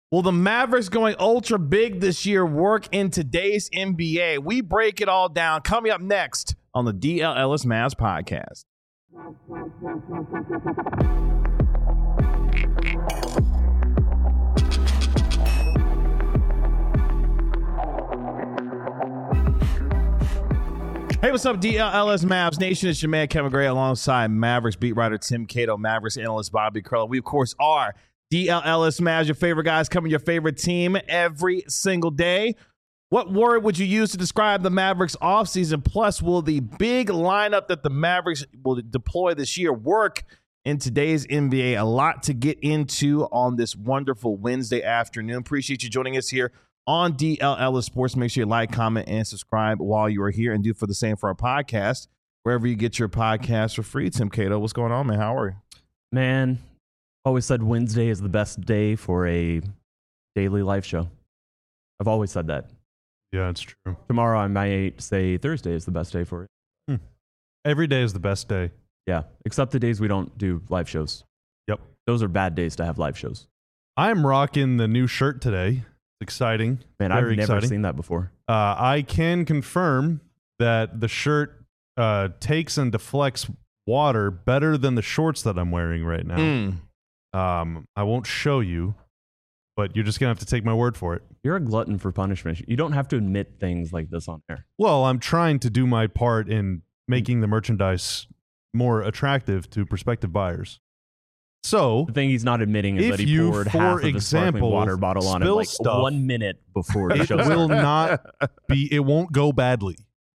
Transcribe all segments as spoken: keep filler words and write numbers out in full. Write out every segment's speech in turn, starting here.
Will the Mavericks going ultra big this year work in today's N B A? We break it all down. Coming up next on the D L Ellis Mavs podcast. Hey, what's up, D L Ellis Mavs Nation? It's your man, Kevin Gray, alongside Mavericks beat writer Tim Cato, Mavericks analyst Bobby Curl. We, of course, are D L Ellis Mavs, your favorite guys, covering your favorite team every single day. What word would you use to describe the Mavericks offseason? Plus, will the big lineup that the Mavericks will deploy this year work in today's N B A? A lot to get into on this wonderful Wednesday afternoon. Appreciate you joining us here on D L Ellis Sports. Make sure you like, comment, and subscribe while you are here, and do for the same for our podcast, wherever you get your podcast for free. Tim Cato, what's going on, man? How are you? Man, always said Wednesday is the best day for a daily live show. I've always said that. Yeah, it's true. Tomorrow I might say Thursday is the best day for it. Hmm. Every day is the best day. Yeah, except the days we don't do live shows. Yep. Those are bad days to have live shows. I'm rocking the new shirt today. It's exciting. Man, Very I've never exciting. seen that before. Uh, I can confirm that the shirt uh, takes and deflects water better than the shorts that I'm wearing right now. Mm. Um, I won't show you, but you're just going to have to take my word for it. You're a glutton for punishment. You don't have to admit things like this on air. Well, I'm trying to do my part in making the merchandise more attractive to prospective buyers. So, The thing he's not admitting is if that he you, poured for half of the example, sparkling water bottle on it spill like stuff, one minute before the it show will started. not be, it won't go badly.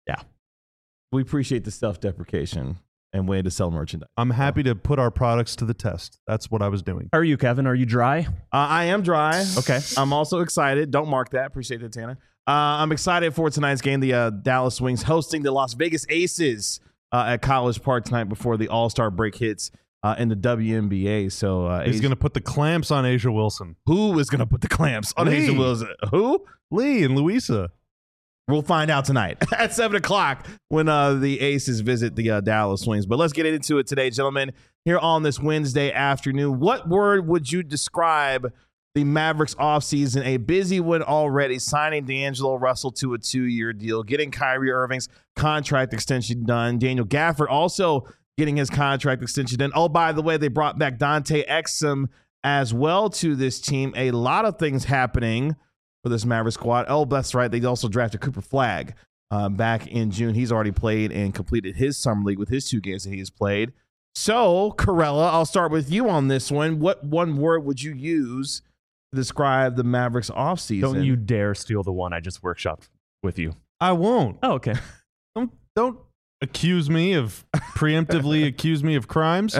We appreciate the self-deprecation and way to sell merchandise. I'm happy to put our products to the test. That's what I was doing. How are you, Kevin? Are you dry? Uh, I am dry. Okay. I'm also excited. Don't mark that. Appreciate that, Tanner. Uh, I'm excited for tonight's game. The uh, Dallas Wings hosting the Las Vegas Aces uh, at College Park tonight before the All-Star break hits uh, in the W N B A. So uh, He's Asia- going to put the clamps on Asia Wilson. who is going to put the clamps on Lee. Asia Wilson? Who? Lee and Louisa. We'll find out tonight at seven o'clock when uh, the Aces visit the uh, Dallas Wings. But let's get into it today, gentlemen, here on this Wednesday afternoon. What word would you describe the Mavericks offseason? A busy one already, signing D'Angelo Russell to a two-year deal, getting Kyrie Irving's contract extension done. Daniel Gafford also getting his contract extension done. Oh, by the way, they brought back Dante Exum as well to this team. A lot of things happening for this Mavericks squad. Oh, that's right. They also drafted Cooper Flagg uh, back in June. He's already played and completed his summer league with his two games that he has played. So, Corella, I'll start with you on this one. What one word would you use to describe the Mavericks offseason? Don't you dare steal the one I just workshopped with you. I won't. Oh, okay. Don't, don't accuse me of preemptively accuse me of crimes.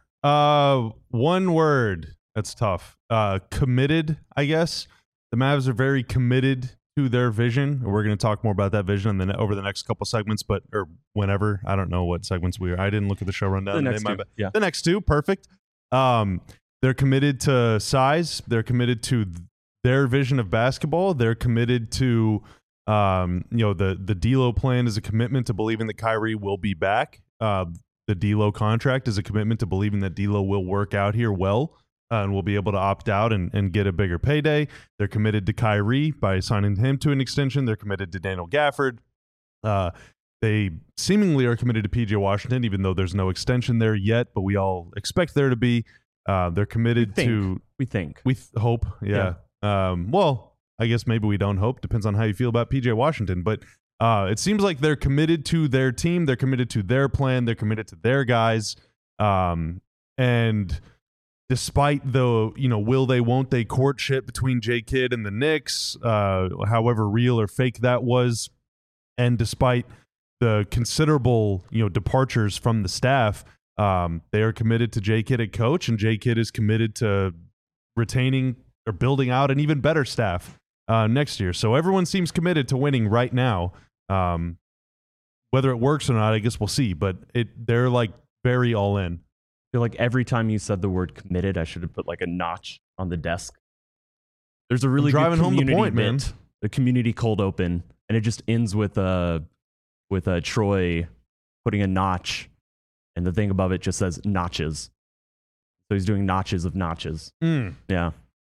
Uh, one word. That's tough. Uh, committed, I guess. The Mavs are very committed to their vision. We're going to talk more about that vision in the, over the next couple segments, but or whenever. I don't know what segments we are. I didn't look at the show rundown. The next They two. might- Yeah. The next two, perfect. Um, they're committed to size. They're committed to their vision of basketball. They're committed to, um, you know, the the D'Lo plan is a commitment to believing that Kyrie will be back. Uh, the D'Lo contract is a commitment to believing that D'Lo will work out here well. Uh, and will be able to opt out and, and get a bigger payday. They're committed to Kyrie by signing him to an extension. They're committed to Daniel Gafford. Uh, they seemingly are committed to P J Washington, even though there's no extension there yet, but we all expect there to be. Uh, they're committed We think. to, We think. we th- hope, yeah. Um, well, I guess maybe we don't hope. Depends on how you feel about P J Washington. But uh, it seems like they're committed to their team. They're committed to their plan. They're committed to their guys. Um, and... Despite the, you know, will they, won't they courtship between J. Kidd and the Knicks, uh, however real or fake that was, and despite the considerable, you know, departures from the staff, um, they are committed to J. Kidd at coach, and J. Kidd is committed to retaining or building out an even better staff uh, next year. So everyone seems committed to winning right now. Um, whether it works or not, I guess we'll see. But it they're like very all in. I feel like every time you said the word committed, I should have put like a notch on the desk. There's a really I'm driving good home the community point, man. bit, the community cold open, and it just ends with uh, with uh, Troy putting a notch, and the thing above it just says notches. So he's doing notches of notches. Mm. Yeah.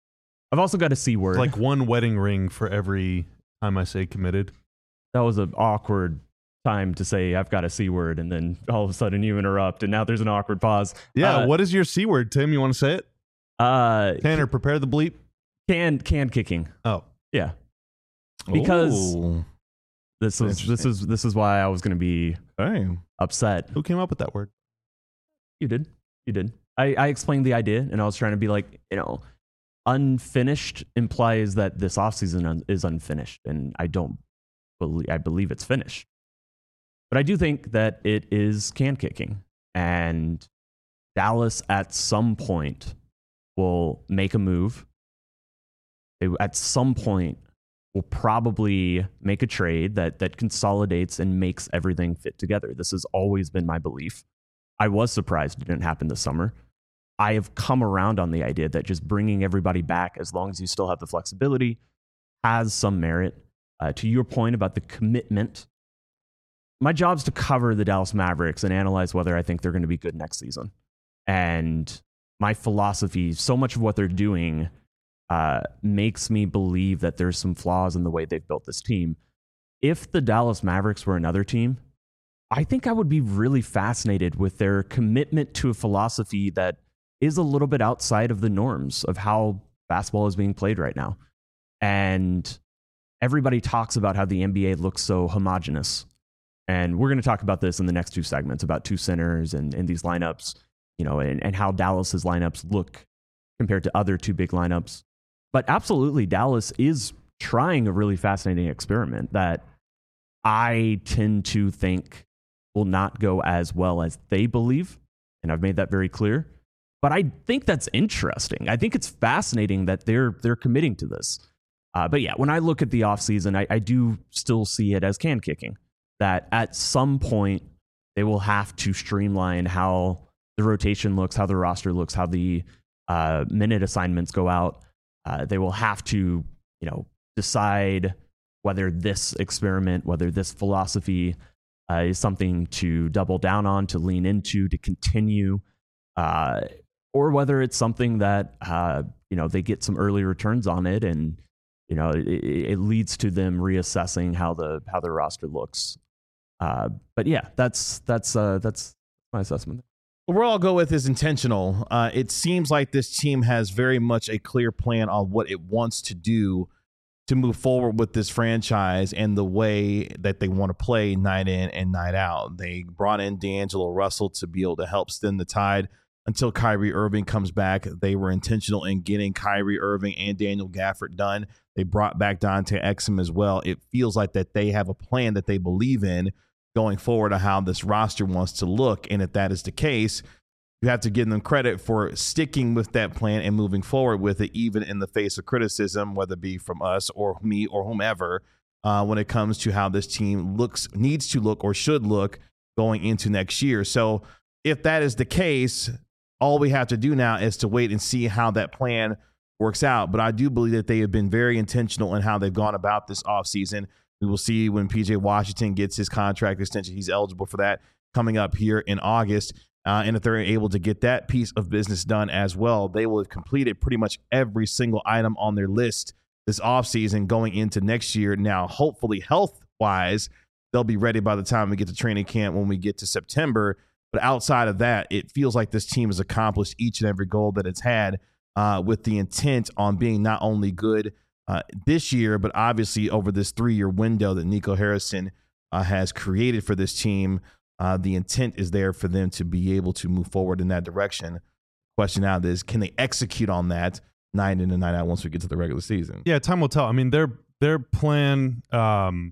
I've also got a C word. It's like one wedding ring for every time I say committed. That was an awkward time to say I've got a C word, and then all of a sudden you interrupt, and now there's an awkward pause. Yeah, Uh, what is your C word, Tim? You want to say it? uh, Tanner, prepare the bleep. can can kicking. Oh, Yeah, because Ooh. this was this is this is why I was going to be Dang. upset. who came up with that word? You did, you did. I, I explained the idea, and I was trying to be like, you know, unfinished implies that this offseason un- is unfinished, and I don't believe I believe it's finished. But I do think that it is can kicking, and Dallas at some point will make a move. They at some point will probably make a trade that that consolidates and makes everything fit together. This has always been my belief. I was surprised it didn't happen this summer. I have come around on the idea that just bringing everybody back, as long as you still have the flexibility, has some merit. Uh, to your point about the commitment, my job is to cover the Dallas Mavericks and analyze whether I think they're going to be good next season. And my philosophy, so much of what they're doing uh, makes me believe that there's some flaws in the way they've built this team. If the Dallas Mavericks were another team, I think I would be really fascinated with their commitment to a philosophy that is a little bit outside of the norms of how basketball is being played right now. And everybody talks about how the N B A looks so homogenous. And we're going to talk about this in the next two segments about two centers and, and these lineups, you know, and, and how Dallas's lineups look compared to other two big lineups. But absolutely, Dallas is trying a really fascinating experiment that I tend to think will not go as well as they believe. And I've made that very clear. But I think that's interesting. I think it's fascinating that they're they're committing to this. Uh, but yeah, when I look at the offseason, I, I do still see it as can kicking. That at some point they will have to streamline how the rotation looks, how the roster looks, how the uh, minute assignments go out. Uh, they will have to, you know, decide whether this experiment, whether this philosophy uh, is something to double down on, to lean into, to continue, uh, or whether it's something that uh, you know they get some early returns on it, and you know it, it leads to them reassessing how the how the roster looks. Uh, but yeah, that's that's uh, that's my assessment. What I'll go with is intentional. Uh, it seems like this team has very much a clear plan on what it wants to do to move forward with this franchise and the way that they want to play night in and night out. They brought in D'Angelo Russell to be able to help stem the tide until Kyrie Irving comes back. They were intentional in getting Kyrie Irving and Daniel Gafford done. They brought back Dante Exum as well. It feels like that they have a plan that they believe in going forward on how this roster wants to look. And if that is the case, you have to give them credit for sticking with that plan and moving forward with it, even in the face of criticism, whether it be from us or me or whomever, uh, when it comes to how this team looks, needs to look or should look going into next year. So if that is the case, all we have to do now is to wait and see how that plan works out. But I do believe that they have been very intentional in how they've gone about this offseason. We will see when P J Washington gets his contract extension. He's eligible for that coming up here in August. Uh, and if they're able to get that piece of business done as well, they will have completed pretty much every single item on their list this offseason going into next year. Now, hopefully health-wise, they'll be ready by the time we get to training camp when we get to September. But outside of that, it feels like this team has accomplished each and every goal that it's had uh, with the intent on being not only good uh, this year, but obviously over this three-year window that Nico Harrison uh, has created for this team. Uh, the intent is there for them to be able to move forward in that direction. Question now is, can they execute on that night in and night out once we get to the regular season? Yeah, time will tell. I mean, their their plan. Um,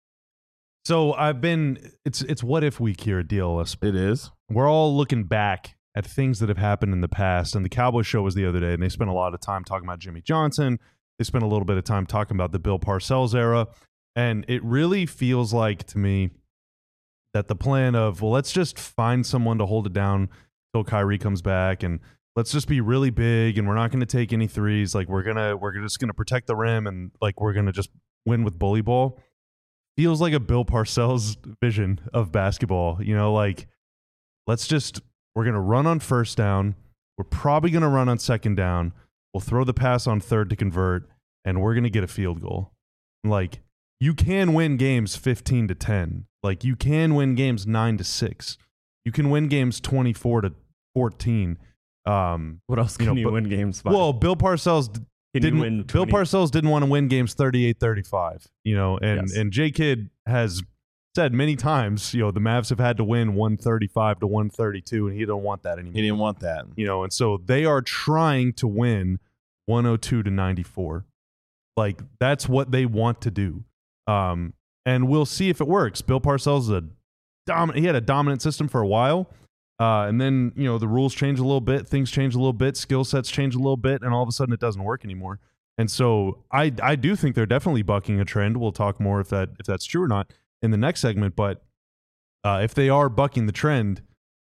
so I've been. It's it's what if week here at D L S. It is. We're all looking back at things that have happened in the past, and the Cowboys show was the other day, and they spent a lot of time talking about Jimmy Johnson. They spent a little bit of time talking about the Bill Parcells era, and it really feels like to me that the plan of, well, let's just find someone to hold it down till Kyrie comes back, and let's just be really big, and we're not going to take any threes. Like we're gonna, we're just going to protect the rim, and like we're going to just win with bully ball. Feels like a Bill Parcells vision of basketball. You know, like let's just, we're going to run on first down. We're probably going to run on second down. We'll throw the pass on third to convert, and we're going to get a field goal. Like, you can win games fifteen to ten. Like, you can win games nine to six. You can win games twenty-four to fourteen. Um, What else can you you, know, but- win games by? well, Bill Parcells d- Can you didn't win Bill twenty Parcells didn't want to win games thirty-eight thirty-five, you know, and Yes. and J Kidd has said many times, you know, the Mavs have had to win one thirty-five to one thirty-two, and he don't want that anymore. He didn't want that. You know, and so they are trying to win one oh two to ninety-four. Like, that's what they want to do. Um, and we'll see if it works. Bill Parcells is a dominant, he had a dominant system for a while. Uh, and then, you know, the rules change a little bit, things change a little bit, skill sets change a little bit, and all of a sudden it doesn't work anymore. And so I I do think they're definitely bucking a trend. We'll talk more if that if that's true or not in the next segment. But uh, if they are bucking the trend,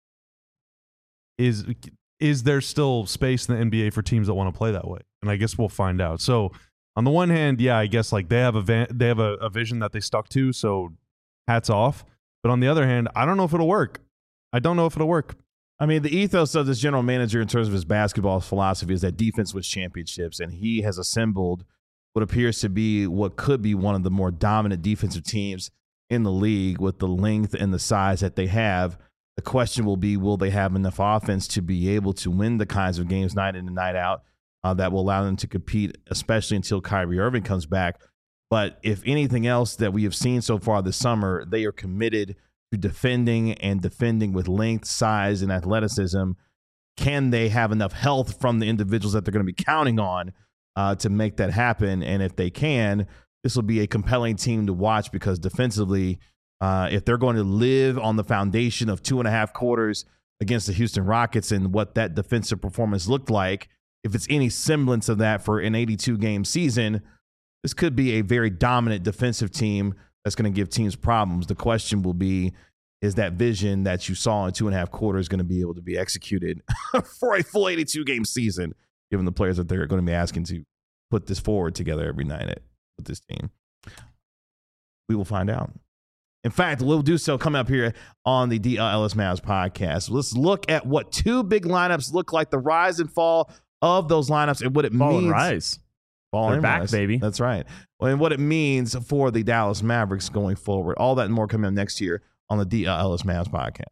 is is there still space in the N B A for teams that want to play that way? And I guess we'll find out. So on the one hand, yeah, I guess like they have a van- they have a, a vision that they stuck to, so hats off. But on the other hand, I don't know if it'll work. I don't know if it'll work. I mean, the ethos of this general manager in terms of his basketball philosophy is that defense wins championships, and he has assembled what appears to be what could be one of the more dominant defensive teams in the league with the length and the size that they have. The question will be, will they have enough offense to be able to win the kinds of games night in and night out uh, that will allow them to compete, especially until Kyrie Irving comes back. But if anything else that we have seen so far this summer, they are committed to defending and defending with length, size, and athleticism. Can they have enough health from the individuals that they're going to be counting on uh, to make that happen? And if they can, this will be a compelling team to watch because defensively, uh, if they're going to live on the foundation of two and a half quarters against the Houston Rockets and what that defensive performance looked like, if it's any semblance of that for an eighty-two game season, this could be a very dominant defensive team that's going to give teams problems. The question will be, is that vision that you saw in two and a half quarters going to be able to be executed for a full eighty-two game season, given the players that they're going to be asking to put this forward together every night at, with this team? We will find out. In fact, we'll do so coming up here on the D L Ellis Mavs podcast. Let's look at what two big lineups look like, the rise and fall of those lineups and what it Fall means. and rise. Fall They're and back, rise. baby. That's right. Well, and what it means for the Dallas Mavericks going forward. All that and more coming up next year on the D L Ellis Mavs podcast.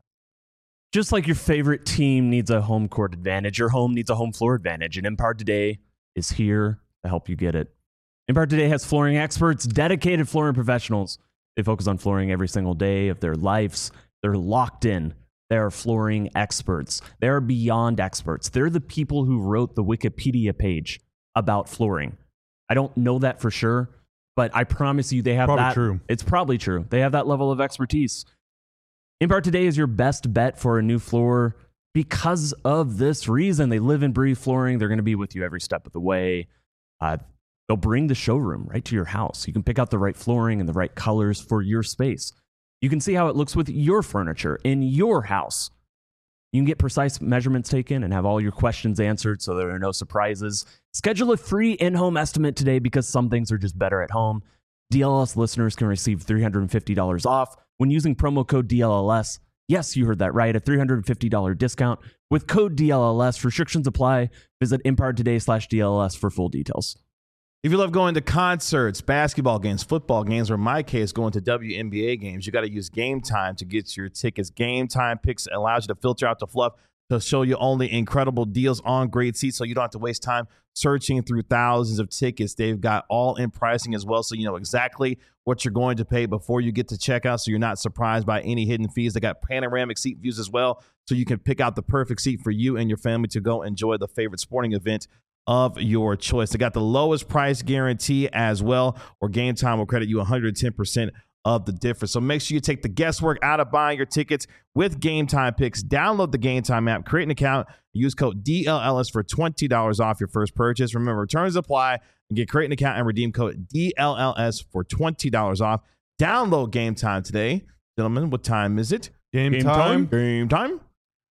Just like your favorite team needs a home court advantage, your home needs a home floor advantage, and Empire Today is here to help you get it. Empire Today has flooring experts, dedicated flooring professionals. They focus on flooring every single day of their lives. They're locked in. They are flooring experts. They are beyond experts. They're the people who wrote the Wikipedia page about flooring. I don't know that for sure, but I promise you they have Probably that. true. It's probably true. They have that level of expertise. Empire Today is your best bet for a new floor because of this reason. They live and breathe flooring. They're going to be with you every step of the way. Uh, they'll bring the showroom right to your house. You can pick out the right flooring and the right colors for your space. You can see how it looks with your furniture in your house. You can get precise measurements taken and have all your questions answered so there are no surprises. Schedule a free in-home estimate today because some things are just better at home. D L S listeners can receive three hundred fifty dollars off when using promo code D L L S. Yes, you heard that right, a three hundred fifty dollars discount with code D L L S. Restrictions apply. Visit Empire Today slash D L L S for full details. If you love going to concerts, basketball games, football games, or in my case, going to W N B A games, you got to use Game Time to get your tickets. Game Time Picks allows you to filter out the fluff to show you only incredible deals on great seats so you don't have to waste time searching through thousands of tickets. They've got all-in pricing as well, so you know exactly what you're going to pay before you get to checkout, so you're not surprised by any hidden fees. They got panoramic seat views as well, so you can pick out the perfect seat for you and your family to go enjoy the favorite sporting event of your choice. They got the lowest price guarantee as well, or Game Time will credit you one hundred ten percent of the difference. So make sure you take the guesswork out of buying your tickets with Game Time Picks. Download the Game Time app, create an account, use code D L L S for twenty dollars off your first purchase. Remember, returns apply, and get create an account and redeem code D L L S for twenty dollars off. Download Game Time today. Gentlemen, what time is it? Game, time. Game time.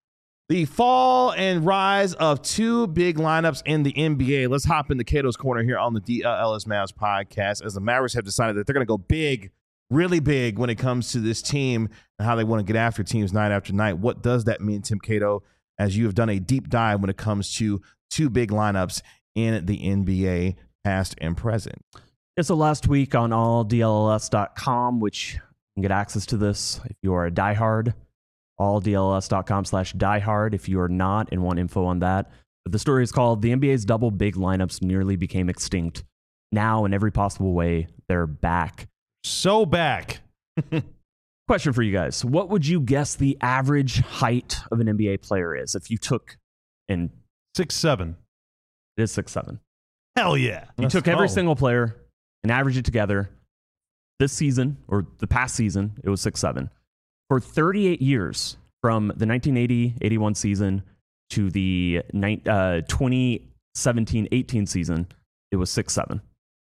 The fall and rise of two big lineups in the N B A. Let's hop into Cato's Corner here on the D L L S Mavs podcast, as the Mavericks have decided that they're going to go big, really big when it comes to this team and how they want to get after teams night after night. What does that mean, Tim Cato, as you have done a deep dive when it comes to two big lineups in the N B A, past and present. Yeah, so last week on all D L S dot com, which you can get access to this if you are a diehard, all D L S dot com slash diehard if you are not and want info on that. But the story is called The N B A's Double Big Lineups Nearly Became Extinct. Now, in every possible way, they're back. So back. Question for you guys. What would you guess the average height of an N B A player is if you took, and Six, seven. it is six seven. Hell yeah. You Let's took every go. single player and averaged it together. This season, or the past season, it was six seven. For thirty-eight years, from the nineteen eighty eighty-one season to the uh, twenty seventeen eighteen season, it was six seven.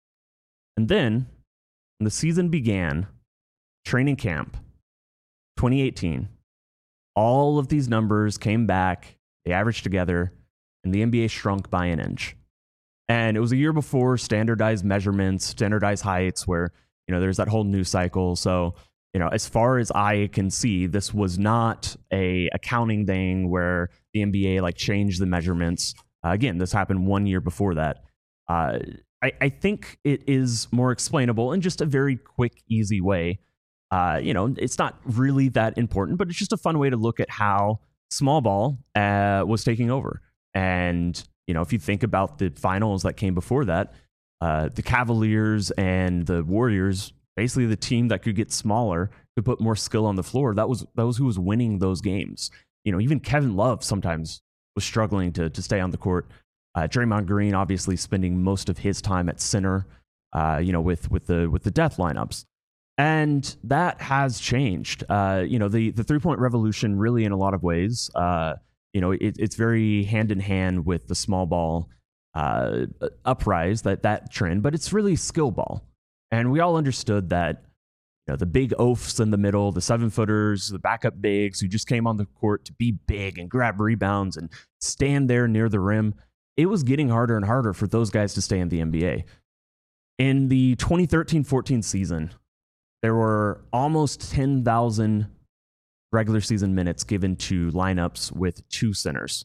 And then, when the season began, training camp, twenty eighteen, all of these numbers came back, they averaged together, and the N B A shrunk by an inch. And it was a year before standardized measurements, standardized heights, where, you know, there's that whole news cycle. So, you know, as far as I can see, this was not a accounting thing where the N B A like changed the measurements. Uh, again, this happened one year before that. Uh, I, I think it is more explainable in just a very quick, easy way. Uh, you know, it's not really that important, but it's just a fun way to look at how small ball uh, was taking over. And, you know, if you think about the finals that came before that, uh, the Cavaliers and the Warriors, basically the team that could get smaller, could put more skill on the floor. That was that was who was winning those games. You know, even Kevin Love sometimes was struggling to to stay on the court. Uh, Draymond Green obviously spending most of his time at center, uh, you know, with with the with the death lineups. And that has changed. Uh, you know, the the three-point revolution really in a lot of ways, uh, you know, it, it's very hand-in-hand with the small ball uh, uprise, that, that trend, but it's really skill ball. And we all understood that, you know, the big oafs in the middle, the seven-footers, the backup bigs who just came on the court to be big and grab rebounds and stand there near the rim, it was getting harder and harder for those guys to stay in the N B A. In the twenty thirteen fourteen season, there were almost ten thousand regular season minutes given to lineups with two centers.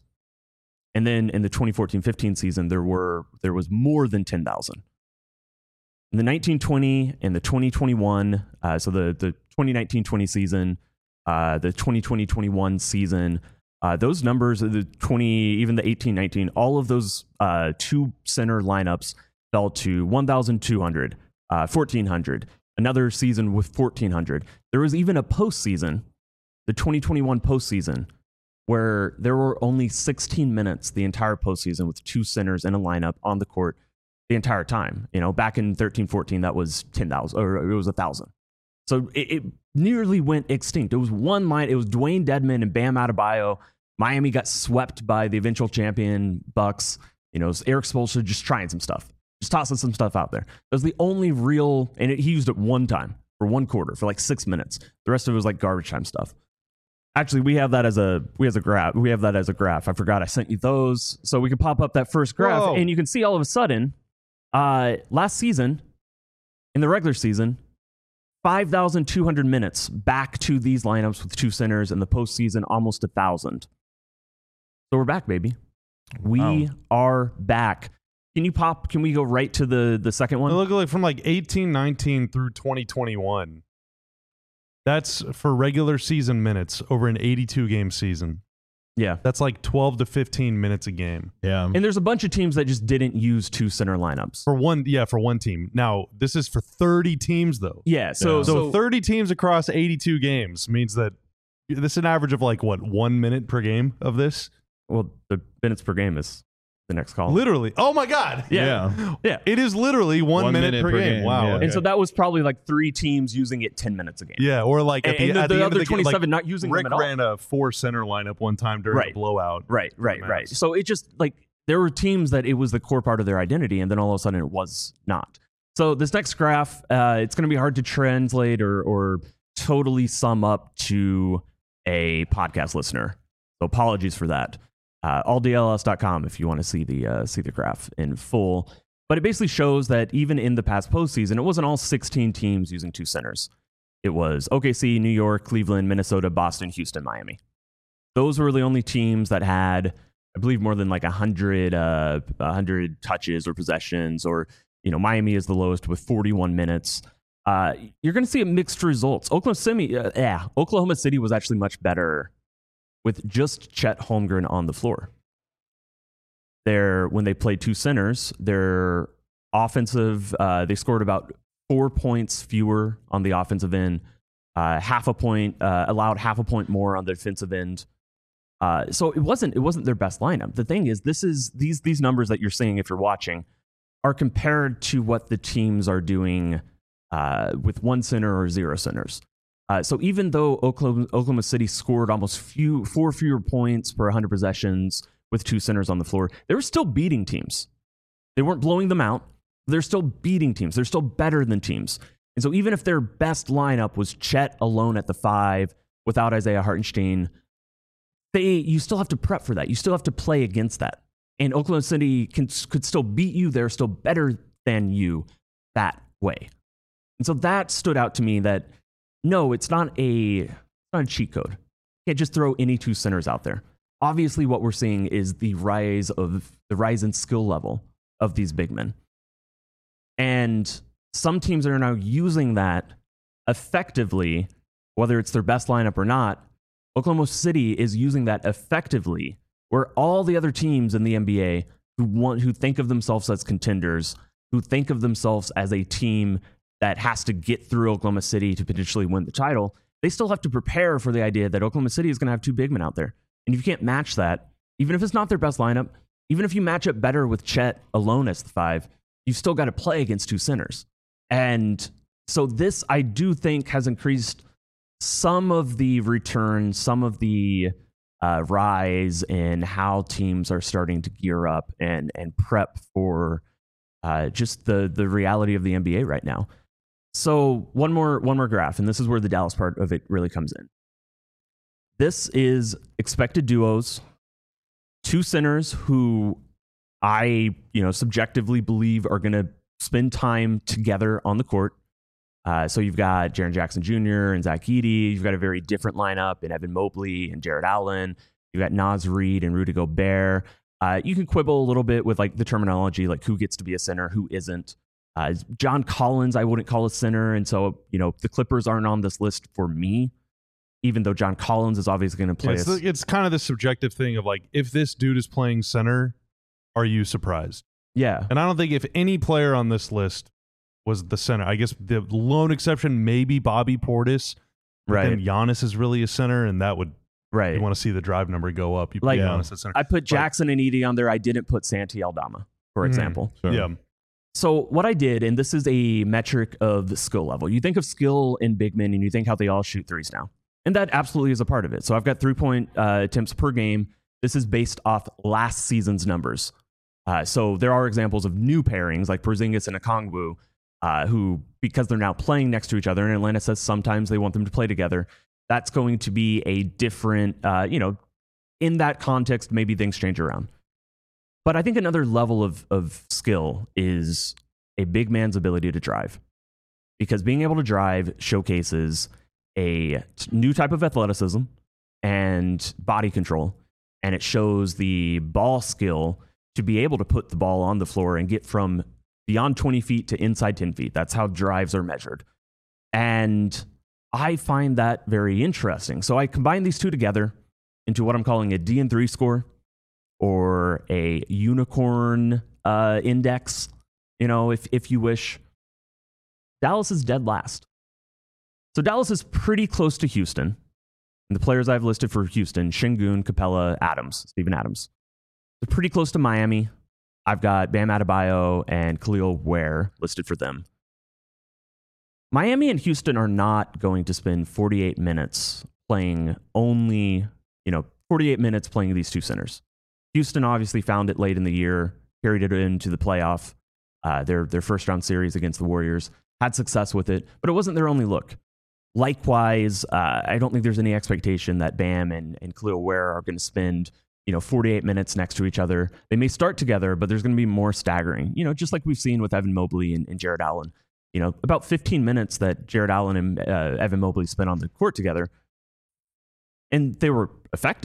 And then in the twenty fourteen fifteen season, there were there was more than ten thousand. In the nineteen twenty and the twenty twenty-one, uh, so the, the twenty nineteen twenty season, uh, the twenty twenty twenty-one season, uh, those numbers, the twenty, even the eighteen nineteen, all of those uh, two center lineups fell to one thousand two hundred, uh, fourteen hundred. Another season with fourteen hundred. There was even a postseason, the twenty twenty-one postseason, where there were only sixteen minutes the entire postseason with two centers and a lineup on the court the entire time. You know, back in thirteen fourteen, that was ten thousand, or it was one thousand. So it, it nearly went extinct. It was one line. It was Dwayne Dedmon and Bam Adebayo. Miami got swept by the eventual champion Bucks. You know, it was Eric Spoelstra just trying some stuff. Just tossing some stuff out there. That was the only real, and it, he used it one time for one quarter for like six minutes. The rest of it was like garbage time stuff. Actually, we have that as a we have a graph. We have that as a graph. I forgot I sent you those, so we can pop up that first graph, Whoa. and you can see all of a sudden, uh, last season, in the regular season, five thousand two hundred minutes back to these lineups with two centers, and the postseason almost a thousand. So we're back, baby. We Wow. are back. Can you pop? Can we go right to the, the second one? It looked like from like eighteen nineteen through twenty twenty-one. That's for regular season minutes over an eighty-two game season. Yeah. That's like twelve to fifteen minutes a game. Yeah. And there's a bunch of teams that just didn't use two center lineups. For one, yeah, for one team. Now, this is for thirty teams, though. Yeah. So, Yeah. So, so thirty teams across eighty-two games means that this is an average of like, what, one minute per game of this? well, the minutes per game is the next column. Literally. Oh, my God. Yeah. Yeah. It is literally one, One minute, minute per, per game. game, Wow. yeah. okay. And so that was probably like three teams using it ten minutes a game. Yeah, or like at And, the, and the, at the, the end other of the game, like twenty-seven not using Rick them at all. ran a four center lineup one time during Right. a blowout. Right, right, Max. right. So it just like there were teams that it was the core part of their identity, and then all of a sudden it was not. So this next graph, uh, it's going to be hard to translate or or totally sum up to a podcast listener. So apologies for that. Uh, all D L S dot com if you want to see the uh, see the graph in full. But it basically shows that even in the past postseason, it wasn't all sixteen teams using two centers. It was O K C, New York, Cleveland, Minnesota, Boston, Houston, Miami. Those were the only teams that had I believe more than like a hundred, uh, a hundred touches or possessions, or you know, Miami is the lowest with forty-one minutes. Uh, you're going to see a mixed results. Oklahoma City, uh, yeah, Oklahoma City was actually much better with just Chet Holmgren on the floor. Their when they played two centers, their offensive, uh, they scored about four points fewer on the offensive end, uh, half a point, uh, allowed half a point more on the defensive end. Uh, so it wasn't it wasn't their best lineup. The thing is, this is these these numbers that you're seeing if you're watching are compared to what the teams are doing uh, with one center or zero centers. Uh, so even though Oklahoma, Oklahoma City scored almost few four fewer points per one hundred possessions with two centers on the floor, they were still beating teams. They weren't blowing them out. They're still beating teams. They're still better than teams. And so even if their best lineup was Chet alone at the five without Isaiah Hartenstein, they you still have to prep for that. You still have to play against that. And Oklahoma City can, could still beat you. They're still better than you that way. And so that stood out to me that, no, it's not a, it's not a cheat code. You can't just throw any two centers out there. Obviously, what we're seeing is the rise of the rise in skill level of these big men. And some teams are now using that effectively, whether it's their best lineup or not. Oklahoma City is using that effectively, where all the other teams in the N B A who want, who think of themselves as contenders, who think of themselves as a team that has to get through Oklahoma City to potentially win the title, they still have to prepare for the idea that Oklahoma City is going to have two big men out there. And if you can't match that, even if it's not their best lineup, even if you match up better with Chet alone as the five, you've still got to play against two centers. And so this, I do think, has increased some of the return, some of the uh, rise in how teams are starting to gear up and and prep for uh, just the the reality of the N B A right now. So one more one more graph, and this is where the Dallas part of it really comes in. This is expected duos, two centers who I, you know, subjectively believe are going to spend time together on the court. Uh, so you've got Jaren Jackson Junior and Zach Edey. You've got a very different lineup in Evan Mobley and Jared Allen. You've got Naz Reid and Rudy Gobert. Uh, you can quibble a little bit with like the terminology, like who gets to be a center, who isn't. Uh, John Collins, I wouldn't call a center. And so, you know, the Clippers aren't on this list for me, even though John Collins is obviously going to play. Yeah, it's, the, it's kind of the subjective thing of like, if this dude is playing center, are you surprised? Yeah. And I don't think if any player on this list was the center, I guess the lone exception maybe Bobby Portis. Right. Then Giannis is really a center, and that would, right. you want to see the drive number go up. You put like, Giannis at center. I put Jackson and Edey on there. I didn't put Santi Aldama, for Mhm. example. Sure. Yeah. So what I did, and this is a metric of the skill level. You think of skill in big men, and you think how they all shoot threes now. And that absolutely is a part of it. So I've got three-point uh, attempts per game. This is based off last season's numbers. Uh, so there are examples of new pairings like Porzingis and Okongwu, uh, who, because they're now playing next to each other, and Atlanta says sometimes they want them to play together, that's going to be a different, uh, you know, in that context, maybe things change around. But I think another level of, of skill is a big man's ability to drive. Because being able to drive showcases a new type of athleticism and body control, and it shows the ball skill to be able to put the ball on the floor and get from beyond twenty feet to inside ten feet. That's how drives are measured. And I find that very interesting. So I combine these two together into what I'm calling a D N three score, or a unicorn uh, index, you know, if if you wish. Dallas is dead last. So Dallas is pretty close to Houston. And the players I've listed for Houston, Şengün, Capella, Adams, Steven Adams. They're pretty close to Miami. I've got Bam Adebayo and Khalil Ware listed for them. Miami and Houston are not going to spend forty-eight minutes playing only, you know, forty-eight minutes playing these two centers. Houston obviously found it late in the year, carried it into the playoff, uh, their, their first round series against the Warriors, had success with it, but it wasn't their only look. Likewise, uh, I don't think there's any expectation that Bam and, and Khalil Ware are going to spend, you know, forty-eight minutes next to each other. They may start together, but there's going to be more staggering, you know, just like we've seen with Evan Mobley and, and Jared Allen. You know, about fifteen minutes that Jared Allen and uh, Evan Mobley spent on the court together. And they were effective,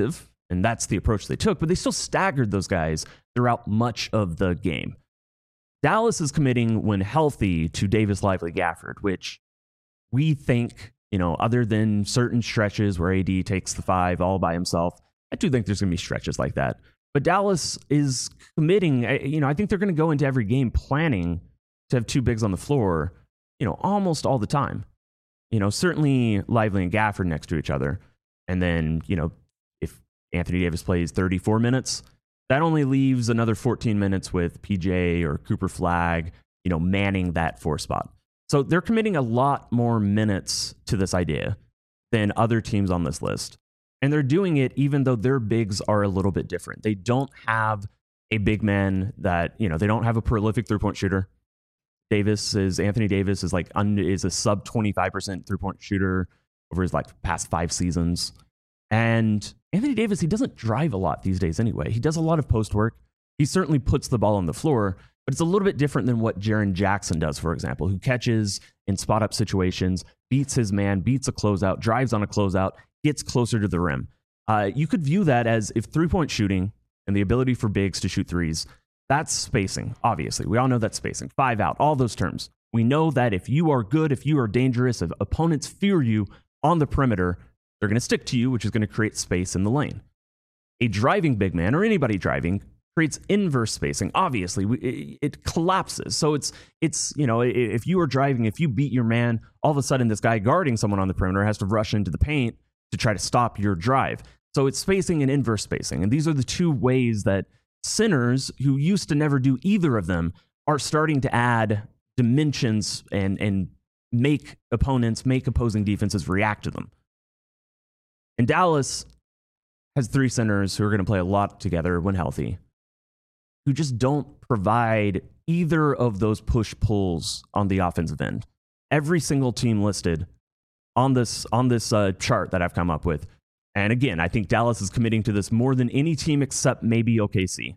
And that's the approach they took, but they still staggered those guys throughout much of the game. Dallas is committing, when healthy, to Davis, Lively, Gafford, which we think, you know, other than certain stretches where A D takes the five all by himself, I do think there's going to be stretches like that. But Dallas is committing, you know, I think they're going to go into every game planning to have two bigs on the floor, you know, almost all the time. You know, certainly Lively and Gafford next to each other. And then, you know, if Anthony Davis plays thirty-four minutes, that only leaves another fourteen minutes with P J or Cooper Flagg, you know, manning that four spot. So they're committing a lot more minutes to this idea than other teams on this list. And they're doing it even though their bigs are a little bit different. They don't have a big man that, you know, they don't have a prolific three-point shooter. Davis is, Anthony Davis is like, is a sub twenty-five percent three-point shooter over his like past five seasons. And Anthony Davis, he doesn't drive a lot these days anyway. He does a lot of post work. He certainly puts the ball on the floor, but it's a little bit different than what Jaren Jackson does, for example, who catches in spot up situations, beats his man, beats a closeout, drives on a closeout, gets closer to the rim. Uh, you could view that as if three-point shooting and the ability for bigs to shoot threes, that's spacing, obviously. We all know that's spacing. Five out, all those terms. We know that if you are good, if you are dangerous, if opponents fear you on the perimeter, they're going to stick to you, which is going to create space in the lane. A driving big man, or anybody driving, creates inverse spacing. Obviously, we, it, it collapses. So it's, it's you know, if you are driving, if you beat your man, all of a sudden this guy guarding someone on the perimeter has to rush into the paint to try to stop your drive. So it's spacing and inverse spacing. And these are the two ways that centers, who used to never do either of them, are starting to add dimensions and, and make opponents, make opposing defenses react to them. And Dallas has three centers who are going to play a lot together when healthy, who just don't provide either of those push-pulls on the offensive end. Every single team listed on this, on this uh, chart that I've come up with, and again, I think Dallas is committing to this more than any team except maybe O K C.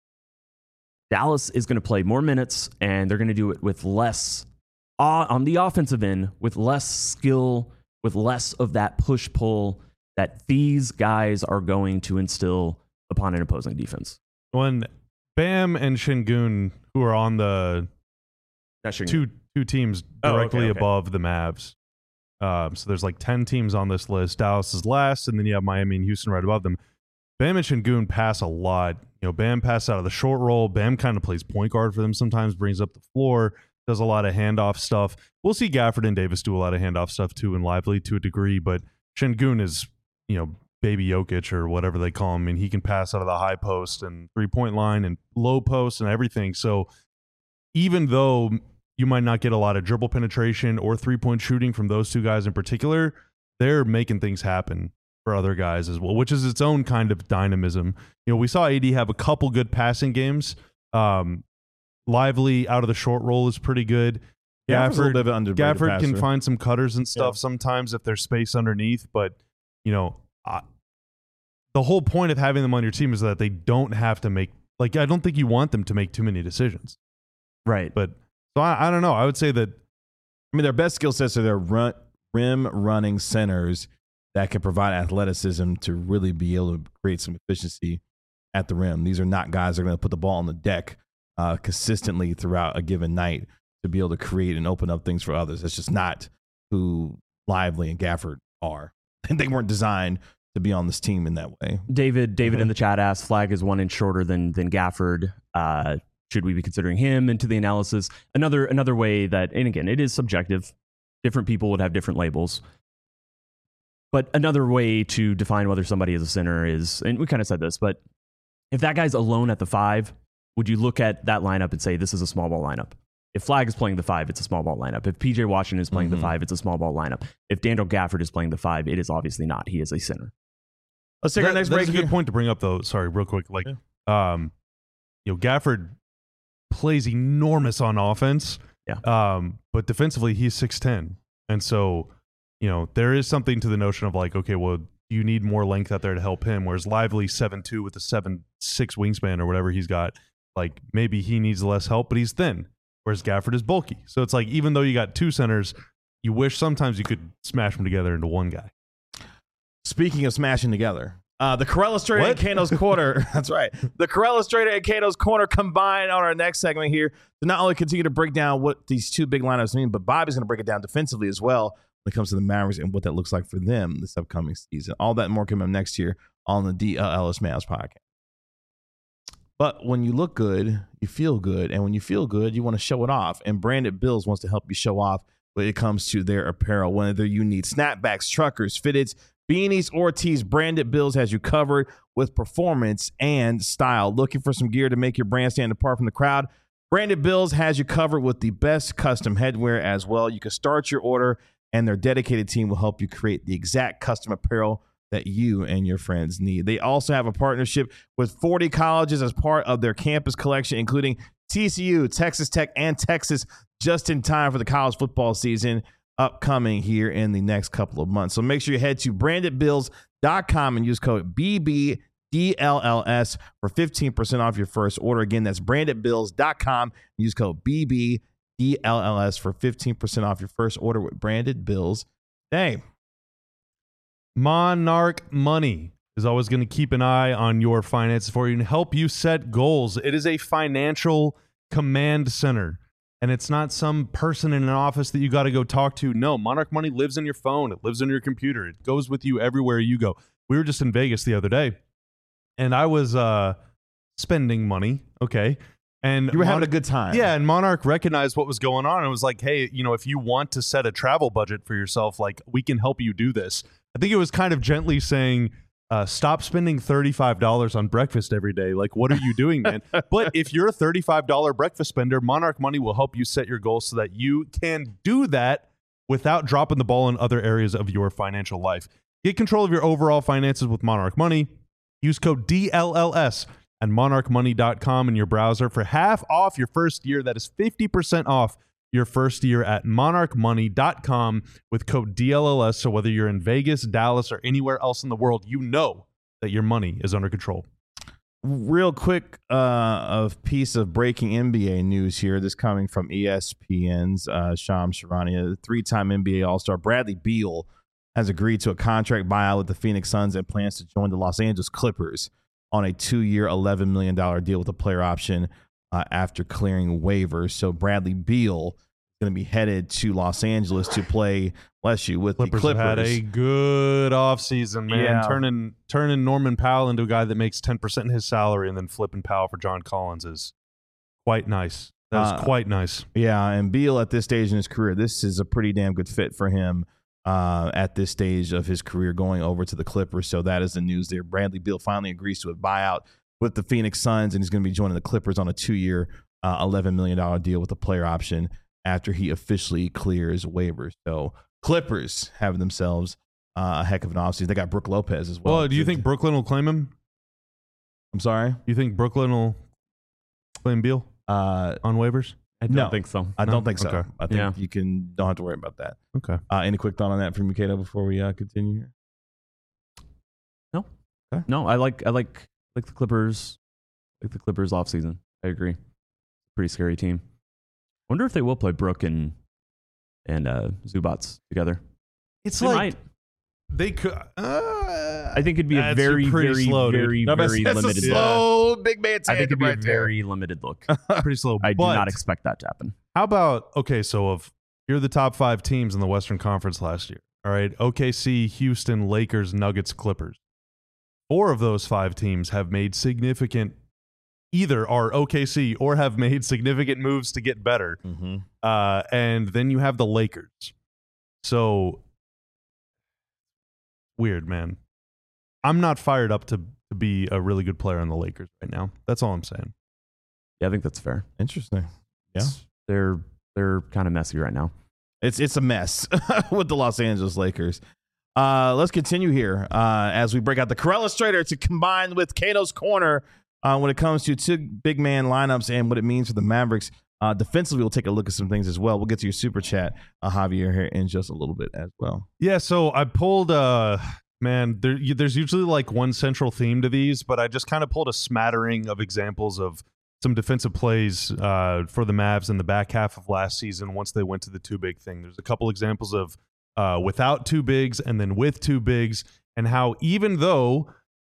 Dallas is going to play more minutes, and they're going to do it with less, uh, on the offensive end, with less skill, with less of that push-pull that these guys are going to instill upon an opposing defense. When Bam and Şengün, who are on the two two teams directly oh, okay, okay. above the Mavs, um, so there's like ten teams on this list. Dallas is last, and then you have Miami and Houston right above them. Bam and Şengün pass a lot. You know, Bam passes out of the short roll. Bam kind of plays point guard for them sometimes, brings up the floor, does a lot of handoff stuff. We'll see Gafford and Davis do a lot of handoff stuff too, and Lively to a degree, but Şengün is, you know, baby Jokic or whatever they call him. I mean, he can pass out of the high post and three-point line and low post and everything. So even though you might not get a lot of dribble penetration or three-point shooting from those two guys in particular, they're making things happen for other guys as well, which is its own kind of dynamism. You know, we saw A D have a couple good passing games. Um, Lively out of the short roll is pretty good. Gafford, Gafford can find some cutters and stuff yeah. sometimes if there's space underneath, but you know, uh, the whole point of having them on your team is that they don't have to make, like, I don't think you want them to make too many decisions. Right. But, so I, I don't know. I would say that. I mean, their best skill sets are their run, rim running centers that can provide athleticism to really be able to create some efficiency at the rim. These are not guys that are going to put the ball on the deck uh, consistently throughout a given night to be able to create and open up things for others. That's just not who Lively and Gafford are. They weren't designed to be on this team in that way. David, David mm-hmm. in the chat asked, Flagg is one inch shorter than than Gafford. Uh, should we be considering him into the analysis? Another another way that, and again, it is subjective. Different people would have different labels. But another way to define whether somebody is a center is, and we kind of said this, but if that guy's alone at the five, would you look at that lineup and say this is a small ball lineup? If Flagg is playing the five, it's a small ball lineup. If P J Washington is playing mm-hmm. the five, it's a small ball lineup. If Daniel Gafford is playing the five, it is obviously not. He is a center. Let's take that, our next that's break. That's a good point to bring up, though. Sorry, real quick. Like, yeah. um, you know, Gafford plays enormous on offense. Yeah. Um, but defensively, he's six ten, and so you know there is something to the notion of like, okay, well, you need more length out there to help him. Whereas Lively seven two with a seven six wingspan or whatever he's got, like maybe he needs less help, but he's thin. Whereas Gafford is bulky. So it's like, even though you got two centers, you wish sometimes you could smash them together into one guy. Speaking of smashing together, Uh, the Corella Strader and Kano's Corner. That's right. The Corella Strader and Kano's Corner combine on our next segment here to not only continue to break down what these two big lineups mean, but Bobby's going to break it down defensively as well when it comes to the Mavericks and what that looks like for them this upcoming season. All that and more coming up next year on the D L Ellis Mavs podcast. But when you look good, you feel good. And when you feel good, you want to show it off. And Branded Bills wants to help you show off when it comes to their apparel, whether you need snapbacks, truckers, fitteds, beanies, or tees. Branded Bills has you covered with performance and style. Looking for some gear to make your brand stand apart from the crowd? Branded Bills has you covered with the best custom headwear as well. You can start your order, and their dedicated team will help you create the exact custom apparel that you and your friends need. They also have a partnership with forty colleges as part of their campus collection, including T C U, Texas Tech, and Texas, just in time for the college football season upcoming here in the next couple of months. So make sure you head to branded bills dot com and use code B B D L L S for fifteen percent off your first order. Again, that's branded bills dot com and use code B B D L L S for fifteen percent off your first order with Branded Bills. Hey, Monarch Money is always going to keep an eye on your finances for you and help you set goals. It is a financial command center, and it's not some person in an office that you got to go talk to. No, Monarch Money lives in your phone. It lives in your computer. It goes with you everywhere you go. We were just in Vegas the other day, and I was uh, spending money, okay? And you were Mon- having a good time. Yeah, and Monarch recognized what was going on and was like, hey, you know, if you want to set a travel budget for yourself, like, we can help you do this. I think it was kind of gently saying, uh, stop spending thirty-five dollars on breakfast every day. Like, what are you doing, man? But if you're a thirty-five dollars breakfast spender, Monarch Money will help you set your goals so that you can do that without dropping the ball in other areas of your financial life. Get control of your overall finances with Monarch Money. Use code D L L S at monarch money dot com in your browser for half off your first year. That is fifty percent off your first year at monarch money dot com with code D L L S. So whether you're in Vegas, Dallas, or anywhere else in the world, you know that your money is under control. Real quick, uh, a piece of breaking N B A news here. This coming from E S P N's uh, Shams Charania. The three-time N B A All-Star Bradley Beal has agreed to a contract buyout with the Phoenix Suns and plans to join the Los Angeles Clippers on a two-year, eleven million dollars deal with a player option uh, after clearing waivers. So Bradley Beal is going to be headed to Los Angeles to play, bless you, with Clippers the Clippers. Have had a good offseason, man. Yeah. Turning turning Norman Powell into a guy that makes ten percent in his salary and then flipping Powell for John Collins is quite nice. That was Uh, quite nice. Yeah, and Beal at this stage in his career, this is a pretty damn good fit for him uh, at this stage of his career going over to the Clippers. So that is the news there. Bradley Beal finally agrees to a buyout with the Phoenix Suns, and he's going to be joining the Clippers on a two-year, uh, eleven million dollars deal with a player option after he officially clears waivers. So Clippers have themselves uh, a heck of an offseason. They got Brook Lopez as well. Well, do you think Brooklyn will claim him? I'm sorry? You think Brooklyn will claim Beal Uh, on waivers? I don't No. think so. I No? don't think so. Okay. I think Yeah. you can don't have to worry about that. Okay. Uh, any quick thought on that from you, Kato, before we uh, continue here? No, I like I like like the Clippers, like the Clippers off season. I agree. Pretty scary team. Wonder if they will play Brook and and uh, Zubats together. It's They like might. they could. Uh, I think it'd be a That's very, pretty very, slow, dude. very, No, but very that's limited a look. slow big man I think it'd tandem be right a there. very limited look. pretty slow. I do but not expect that to happen. How about, okay, so of here are the top five teams in the Western Conference last year. All right, O K C, Houston, Lakers, Nuggets, Clippers. Four of those five teams have made significant, either are O K C or have made significant moves to get better. Mm-hmm. Uh, and then you have the Lakers. So, weird, man. I'm not fired up to, to be a really good player on the Lakers right now. That's all I'm saying. Yeah, I think that's fair. Interesting. Yeah. They're they're kind of messy right now. It's it's a mess with the Los Angeles Lakers. Uh, let's continue here uh, as we break out the Corella Strader to combine with Kato's Corner uh, when it comes to two big man lineups and what it means for the Mavericks. Uh, defensively, we'll take a look at some things as well. We'll get to your super chat, uh, Javier, here in just a little bit as well. Yeah, so I pulled, uh, man, there, you- there's usually like one central theme to these, but I just kind of pulled a smattering of examples of some defensive plays uh, for the Mavs in the back half of last season once they went to the two big thing. There's a couple examples of uh, without two bigs and then with two bigs, and how even though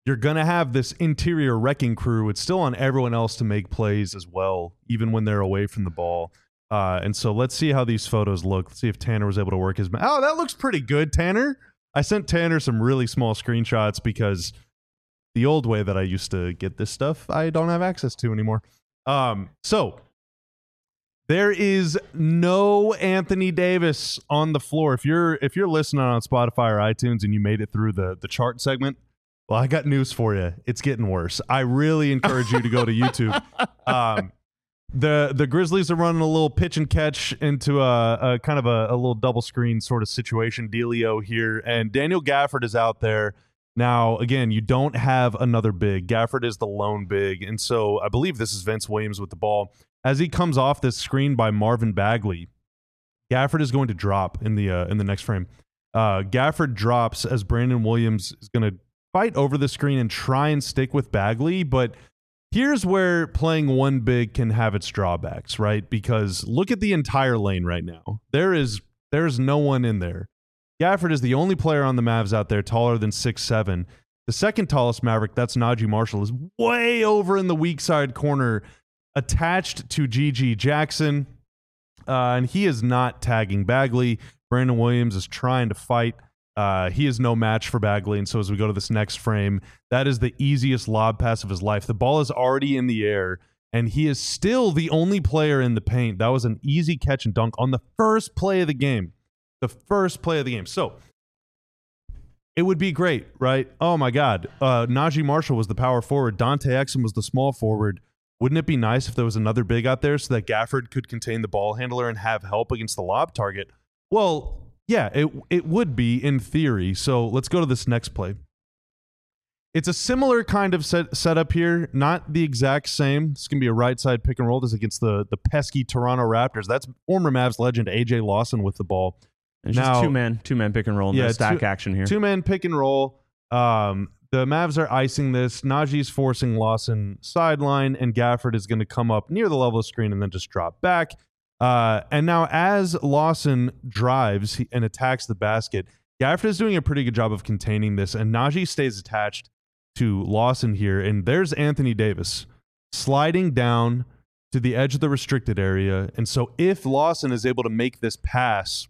you're going to have this interior wrecking crew. It's still on everyone else to make plays as well, even when they're away from the ball. Uh, and so let's see how these photos look. Let's see if Tanner was able to work his... Ma- oh, that looks pretty good, Tanner. I sent Tanner some really small screenshots because the old way that I used to get this stuff, I don't have access to anymore. Um, so there is no Anthony Davis on the floor. If you're if you're listening on Spotify or iTunes and you made it through the, the chart segment, well, I got news for you. It's getting worse. I really encourage you to go to YouTube. Um, the the Grizzlies are running a little pitch and catch into a, a kind of a, a little double screen sort of situation dealio here, and Daniel Gafford is out there. Now, again, you don't have another big. Gafford is the lone big, and so I believe this is Vince Williams with the ball. As he comes off this screen by Marvin Bagley, Gafford is going to drop in the uh, in the next frame. Uh, Gafford drops as Brandon Williams is going to fight over the screen and try and stick with Bagley, but here's where playing one big can have its drawbacks, right? Because look at the entire lane right now. There is there's no one in there. Gafford is the only player on the Mavs out there taller than six seven. The second tallest Maverick, that's Najee Marshall, is way over in the weak side corner, attached to G G Jackson, uh, and he is not tagging Bagley. Brandon Williams is trying to fight. Uh, he is no match for Bagley, and so as we go to this next frame, that is the easiest lob pass of his life. The ball is already in the air, and he is still the only player in the paint. That was an easy catch and dunk on the first play of the game. The first play of the game. So it would be great, right? Oh, my God. Uh, Najee Marshall was the power forward. Dante Exum was the small forward. Wouldn't it be nice if there was another big out there so that Gafford could contain the ball handler and have help against the lob target? Well, yeah, it it would be in theory. So let's go to this next play. It's a similar kind of set, setup here, not the exact same. It's going to be a right side pick and roll. This is against the, the pesky Toronto Raptors. That's former Mavs legend A J Lawson with the ball. It's now, just two man, two man pick and roll. Yeah, No stack two, action here. Two man pick and roll. Um, the Mavs are icing this. Najee's forcing Lawson sideline, and Gafford is going to come up near the level of screen and then just drop back. Uh, and now as Lawson drives and attacks the basket, Gafford is doing a pretty good job of containing this, and Najee stays attached to Lawson here. And there's Anthony Davis sliding down to the edge of the restricted area. And so if Lawson is able to make this pass,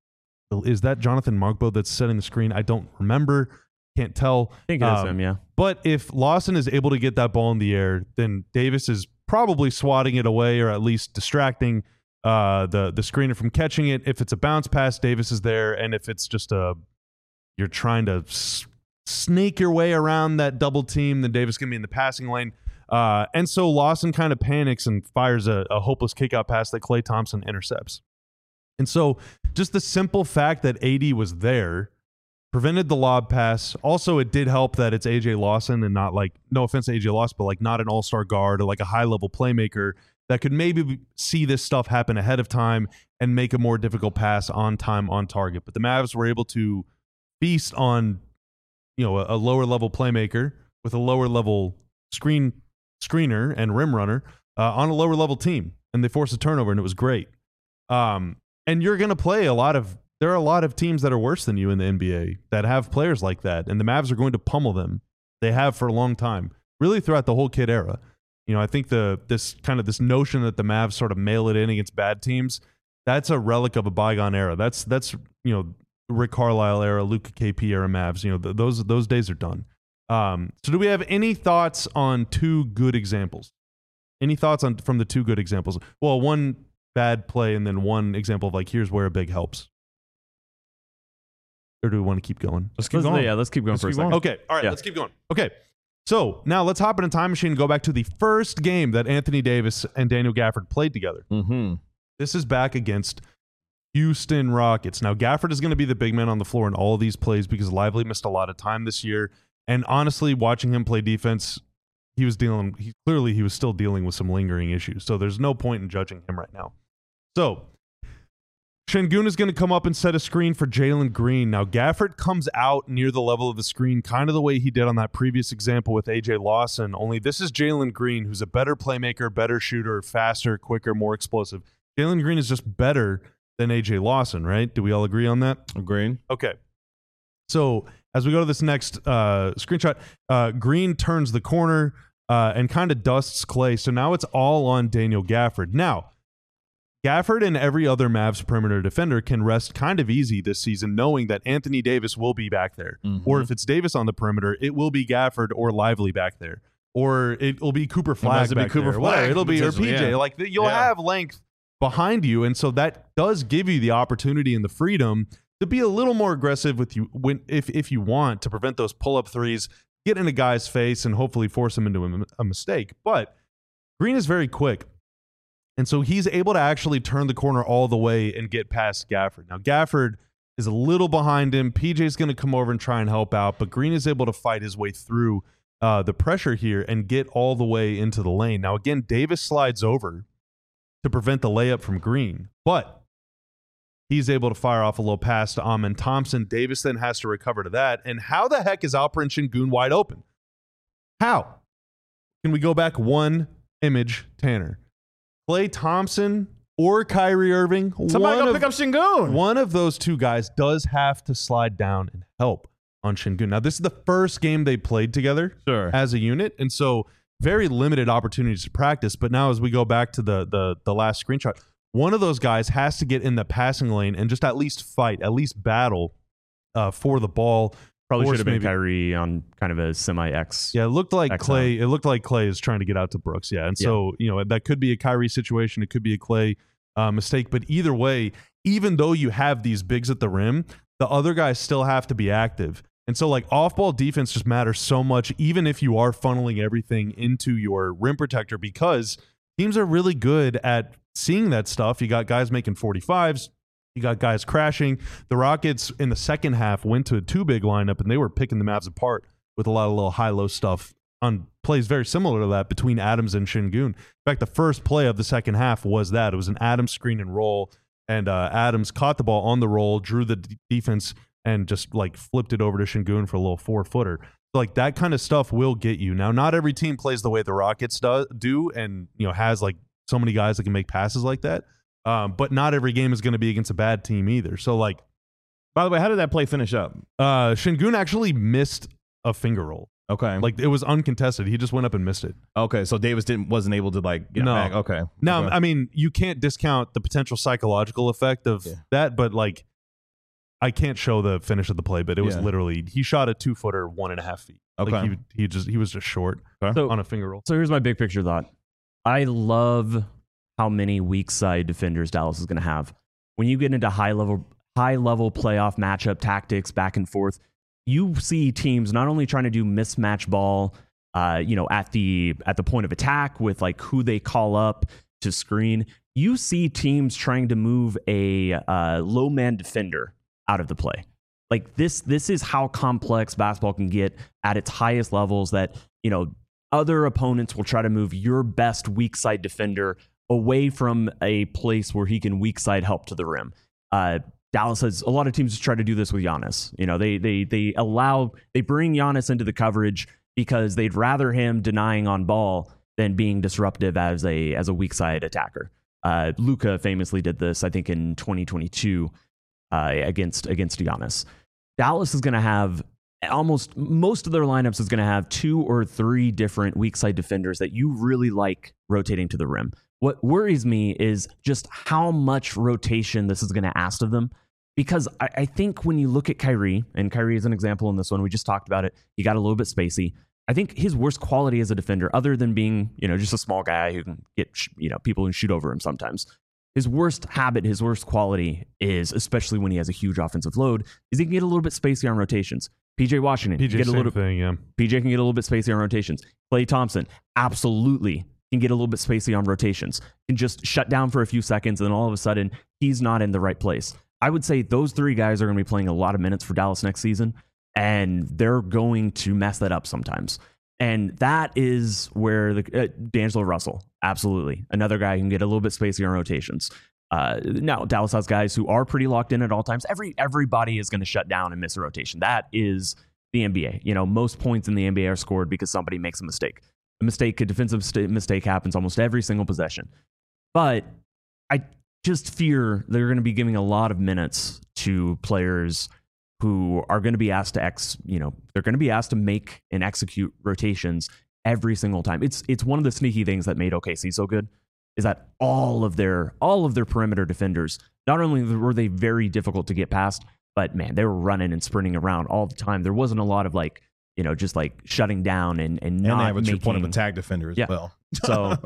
is that Jonathan Markbo that's setting the screen? I don't remember. Can't tell. I think it is um, him, yeah. But if Lawson is able to get that ball in the air, then Davis is probably swatting it away or at least distracting uh, the, the screener from catching it. If it's a bounce pass, Davis is there. And if it's just a, you're trying to s- snake your way around that double team, then Davis can be in the passing lane. Uh, and so Lawson kind of panics and fires a, a hopeless kickout pass that Klay Thompson intercepts. And so just the simple fact that A D was there prevented the lob pass. Also, it did help that it's A J Lawson and not like, no offense to A J Lawson, but like not an all-star guard or like a high-level playmaker that could maybe see this stuff happen ahead of time and make a more difficult pass on time, on target. But the Mavs were able to feast on, you know, a, a lower-level playmaker with a lower-level screen screener and rim runner uh, on a lower-level team, and they forced a turnover, and it was great. Um, and you're going to play a lot of There are a lot of teams that are worse than you in the N B A that have players like that, and the Mavs are going to pummel them. They have for a long time, really throughout the whole Kid era. You know, I think the this kind of this notion that the Mavs sort of mail it in against bad teams, that's a relic of a bygone era. That's that's you know Rick Carlisle era, Luka K P era Mavs. You know, th- those those days are done. Um, so, do we have any thoughts on two good examples? Any thoughts on from the two good examples? Well, one bad play and then one example of like here's where a big helps. Or do we want to keep going? Let's keep Let's, going. yeah, let's keep going Let's for keep a second. going. Okay, all right, Yeah. let's keep going. Okay, so now let's hop in a time machine and go back to the first game that Anthony Davis and Daniel Gafford played together. Mm-hmm. This is back against Houston Rockets. Now, Gafford is going to be the big man on the floor in all of these plays because Lively missed a lot of time this year. And honestly, watching him play defense, he was dealing, he, clearly he was still dealing with some lingering issues. So there's no point in judging him right now. So Şengün is going to come up and set a screen for Jalen Green. Now, Gafford comes out near the level of the screen, kind of the way he did on that previous example with A J Lawson, only this is Jalen Green, who's a better playmaker, better shooter, faster, quicker, more explosive. Jalen Green is just better than A J Lawson, right? Do we all agree on that? Agreed. Okay. So as we go to this next uh, screenshot, uh, Green turns the corner uh, and kind of dusts Klay. So now it's all on Daniel Gafford. Now, Gafford and every other Mavs perimeter defender can rest kind of easy this season, knowing that Anthony Davis will be back there. Mm-hmm. Or if it's Davis on the perimeter, it will be Gafford or Lively back there. Or it will be Cooper Flag back Cooper there. Flag, it'll be or P J. Yeah. Like you'll yeah. have length behind you, and so that does give you the opportunity and the freedom to be a little more aggressive with you when if if you want to prevent those pull-up threes, get in a guy's face, and hopefully force him into a, a mistake. But Green is very quick. And so he's able to actually turn the corner all the way and get past Gafford. Now, Gafford is a little behind him. P J's going to come over and try and help out, but Green is able to fight his way through uh, the pressure here and get all the way into the lane. Now, again, Davis slides over to prevent the layup from Green, but he's able to fire off a little pass to Amen Thompson. Davis then has to recover to that. And how the heck is Alperen Sengun wide open? How? Can we go back one image, Tanner? Klay Thompson or Kyrie Irving. Somebody go of, pick up Sengun. One of those two guys does have to slide down and help on Sengun. Now, this is the first game they played together sure. as a unit, and so very limited opportunities to practice. But now as we go back to the the the last screenshot, one of those guys has to get in the passing lane and just at least fight, at least battle uh, for the ball. Probably Force should have been maybe. Kyrie on kind of a semi-X. Yeah, it looked like X Klay. It looked like Klay is trying to get out to Brooks. Yeah, and so you know that could be a Kyrie situation. It could be a Klay uh, mistake. But either way, even though you have these bigs at the rim, the other guys still have to be active. And so like off-ball defense just matters so much, even if you are funneling everything into your rim protector, because teams are really good at seeing that stuff. You got guys making forty-fives. You got guys crashing. The Rockets in the second half went to a two-big lineup, and they were picking the Mavs apart with a lot of little high-low stuff on plays very similar to that between Adams and Sengun. In fact, the first play of the second half was that. It was an Adams screen and roll, and uh, Adams caught the ball on the roll, drew the d- defense, and just like flipped it over to Sengun for a little four-footer. Like that kind of stuff will get you. Now, not every team plays the way the Rockets do, do and you know has like so many guys that can make passes like that. Um, but not every game is going to be against a bad team either. So, like, by the way, how did that play finish up? Uh, Sengun actually missed a finger roll. Okay, like it was uncontested. He just went up and missed it. Okay, so Davis didn't wasn't able to like get no. back. Okay, now okay. I mean you can't discount the potential psychological effect of yeah. that, but like I can't show the finish of the play, but it was yeah. literally he shot a two footer one and a half feet. Okay, like he he just he was just short okay. so, on a finger roll. So here's my big picture thought. I love how many weak side defenders Dallas is going to have. When you get into high level, high level playoff matchup tactics back and forth, you see teams not only trying to do mismatch ball, uh, you know, at the at the point of attack with like who they call up to screen. You see teams trying to move a uh, low man defender out of the play. Like this, this is how complex basketball can get at its highest levels. That you know, other opponents will try to move your best weak side defender away from a place where he can weak side help to the rim. Uh, Dallas has a lot of teams try to do this with Giannis. You know, they they they allow they bring Giannis into the coverage because they'd rather him denying on ball than being disruptive as a as a weak side attacker. Uh, Luka famously did this, I think, in twenty twenty-two uh, against against Giannis. Dallas is going to have almost most of their lineups is going to have two or three different weak side defenders that you really like rotating to the rim. What worries me is just how much rotation this is going to ask of them. Because I, I think when you look at Kyrie, and Kyrie is an example in this one, we just talked about it. He got a little bit spacey. I think his worst quality as a defender, other than being, you know, just a small guy who can get, you know, people who shoot over him sometimes. His worst habit, his worst quality is, especially when he has a huge offensive load, is he can get a little bit spacey on rotations. P J Washington, P J get a same little thing, yeah. P J can get a little bit spacey on rotations. Klay Thompson, absolutely can get a little bit spacey on rotations. Can just shut down for a few seconds, and then all of a sudden he's not in the right place. I would say those three guys are going to be playing a lot of minutes for Dallas next season, and they're going to mess that up sometimes. And that is where the uh, D'Angelo Russell, absolutely, another guy who can get a little bit spacey on rotations. Uh, now, Dallas has guys who are pretty locked in at all times. Every everybody is going to shut down and miss a rotation. That is the N B A. You know, most points in the N B A are scored because somebody makes a mistake. A mistake, a defensive st- mistake happens almost every single possession. But I just fear they're going to be giving a lot of minutes to players who are going to be asked to ex, you know, they're going to be asked to make and execute rotations every single time. It's it's one of the sneaky things that made O K C so good, is that all of their all of their perimeter defenders, not only were they very difficult to get past, but man, they were running and sprinting around all the time. There wasn't a lot of like, you know, just like shutting down and and, And not they have a true making, point of attack defender as Yeah. well. So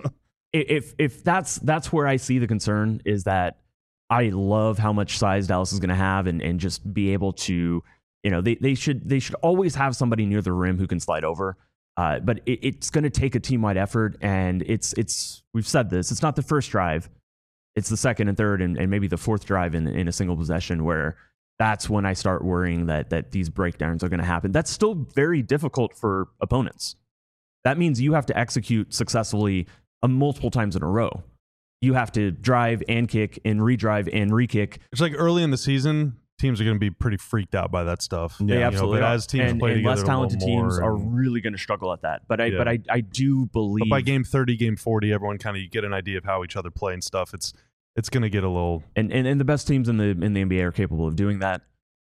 if if that's that's where I see the concern, is that I love how much size Dallas is going to have, and and just be able to, you know, they they should they should always have somebody near the rim who can slide over. Uh, but it, it's going to take a team wide effort, and it's it's we've said this. It's not the first drive; it's the second and third, and, and maybe the fourth drive in in a single possession, where that's when I start worrying that that these breakdowns are going to happen. That's still very difficult for opponents. That means you have to execute successfully uh, multiple times in a row. You have to drive and kick and redrive and re-kick. It's like early in the season, teams are going to be pretty freaked out by that stuff. They You know, absolutely but are. as teams and, play and together less a little talented teams more are and- really going to struggle at that. But I, Yeah. but I, I do believe. But by game thirty, game forty, everyone kind of you get an idea of how each other play and stuff. It's it's going to get a little. and, and and the best teams in the in the N B A are capable of doing that.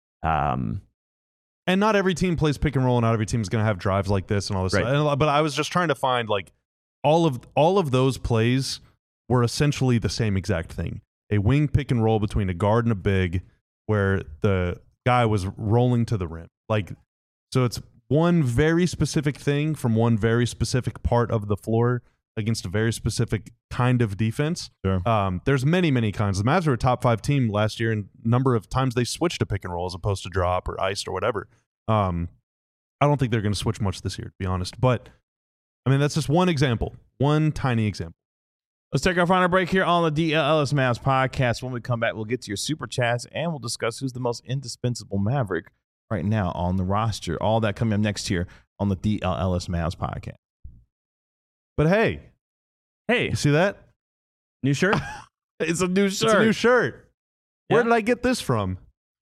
Um, And not every team plays pick and roll, and not every team is going to have drives like this and all this Right. stuff. And- But I was just trying to find like all of all of those plays were essentially the same exact thing: a wing pick and roll between a guard and a big, where the guy was rolling to the rim. Like, so it's one very specific thing from one very specific part of the floor against a very specific kind of defense. Sure. Um, there's many, many kinds. The Mavs were a top five team last year, and number of times they switched to pick and roll as opposed to drop or iced or whatever. Um, I don't think they're going to switch much this year, to be honest. But I mean, that's just one example, one tiny example. Let's take our final break here on the D L L S Mavs podcast. When we come back, we'll get to your super chats and we'll discuss who's the most indispensable Maverick right now on the roster. All that coming up next here on the D L L S Mavs podcast. But hey, hey, you see that? new shirt? It's a new shirt. It's a new shirt. Where Yeah. did I get this from?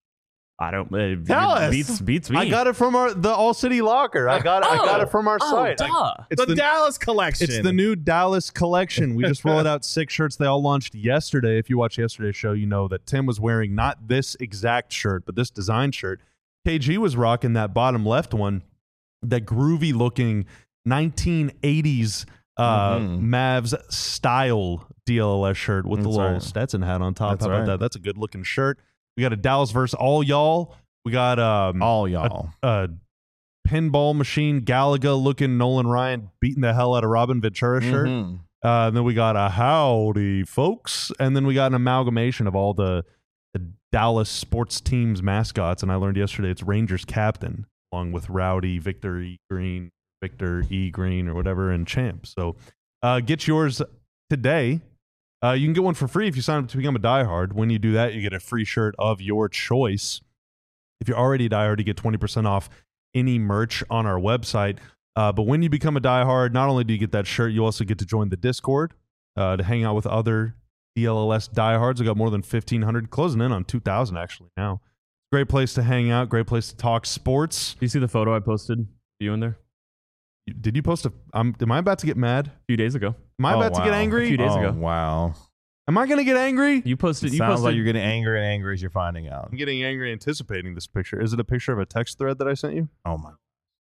I don't. Uh, Tell it us. Beats beats me. I got it from our the All City Locker. I got it. I got it from our oh, site. I- duh. it's the, the Dallas collection. It's the new Dallas collection. We just rolled out six shirts. They all launched yesterday. If you watched yesterday's show, you know that Tim was wearing not this exact shirt, but this design shirt. K G was rocking that bottom left one, that groovy looking nineteen eighties uh, Mhm. Mavs style D L L S shirt with That's the little right. Stetson hat on top. That's How about right. that? That's a good looking shirt. We got a Dallas versus all y'all. We got um, all y'all. a pinball machine Galaga looking Nolan Ryan beating the hell out of Robin Ventura shirt. Mhm. Uh, and then we got a howdy folks, and then we got an amalgamation of all the, the Dallas sports teams mascots. And I learned yesterday it's Rangers captain, along with Rowdy, Victor E. Green, Victor E. Green, or whatever, and Champ. So uh, get yours today. Uh, you can get one for free if you sign up to become a diehard. When you do that, you get a free shirt of your choice. If you're already a diehard, you get twenty percent off any merch on our website. Uh, but when you become a diehard, not only do you get that shirt, you also get to join the Discord uh, to hang out with other D L L S diehards. We got more than fifteen hundred, closing in on two thousand actually now. Great place to hang out, great place to talk sports. Do you see the photo I posted? of You in there You- Did you post a... I'm, am I about to get mad? a few days ago? Am I Oh, about to get wow. angry? A few days oh, ago. Wow. Am I going to get angry? You posted. It You sounds posted. like you're getting angry and angry as you're finding out. I'm getting angry anticipating this picture. Is it a picture of a text thread that I sent you? Oh, my.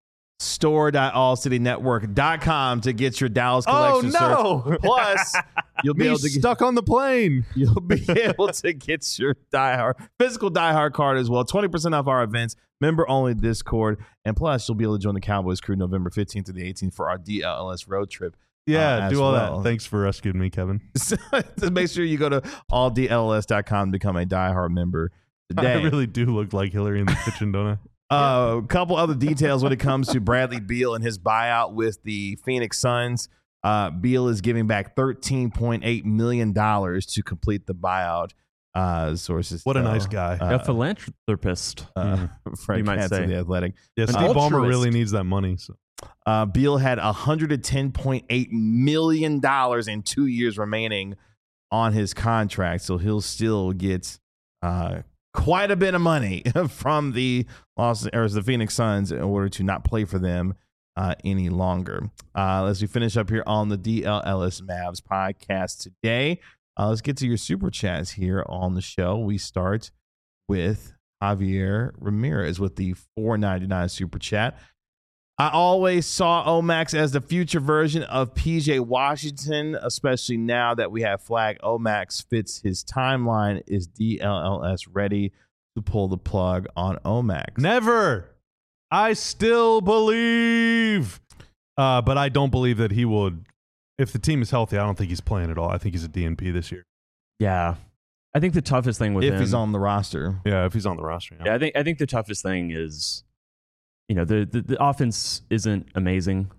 store dot all city network dot com to get your Dallas collection Oh, shirts. Plus, you'll be Me able to get, stuck on the plane. you'll be able to get your diehard physical diehard card as well. twenty percent off our events, member only Discord, and plus you'll be able to join the Cowboys crew November fifteenth to the eighteenth for our D L L S road trip. Yeah, Uh, as do all well. that. Thanks for rescuing me, Kevin. So to make sure you go to all D L L S dot com to become a diehard member today. I really do look like Hillary in the kitchen, don't I? A uh, couple other details when it comes to Bradley Beal and his buyout with the Phoenix Suns. Uh, Beal is giving back thirteen point eight million dollars to complete the buyout. Uh, sources. What a tell. nice guy. Uh, a philanthropist. uh, Frank You might Katz of say. The Athletic. Yeah, An Steve Ballmer altruist. really needs that money. So Uh, Beal had one hundred ten point eight million dollars in two years remaining on his contract, so he'll still get uh, quite a bit of money from the Los or the Phoenix Suns in order to not play for them uh, any longer. Uh, as we finish up here on the D L L S Mavs podcast today, uh, let's get to your super chats here on the show. We start with Javier Ramirez with the four ninety-nine super chat. I always saw Omax as the future version of P J Washington, especially now that we have flag. Omax fits his timeline. Is D L L S ready to pull the plug on Omax? Never. I still believe. Uh, but I don't believe that he would. If the team is healthy, I don't think he's playing at all. I think he's a D N P this year. Yeah. I think the toughest thing with if him, he's on the roster. Yeah, if he's on the roster. Yeah, yeah I think I think the toughest thing is, you know, the, the, the offense isn't amazing.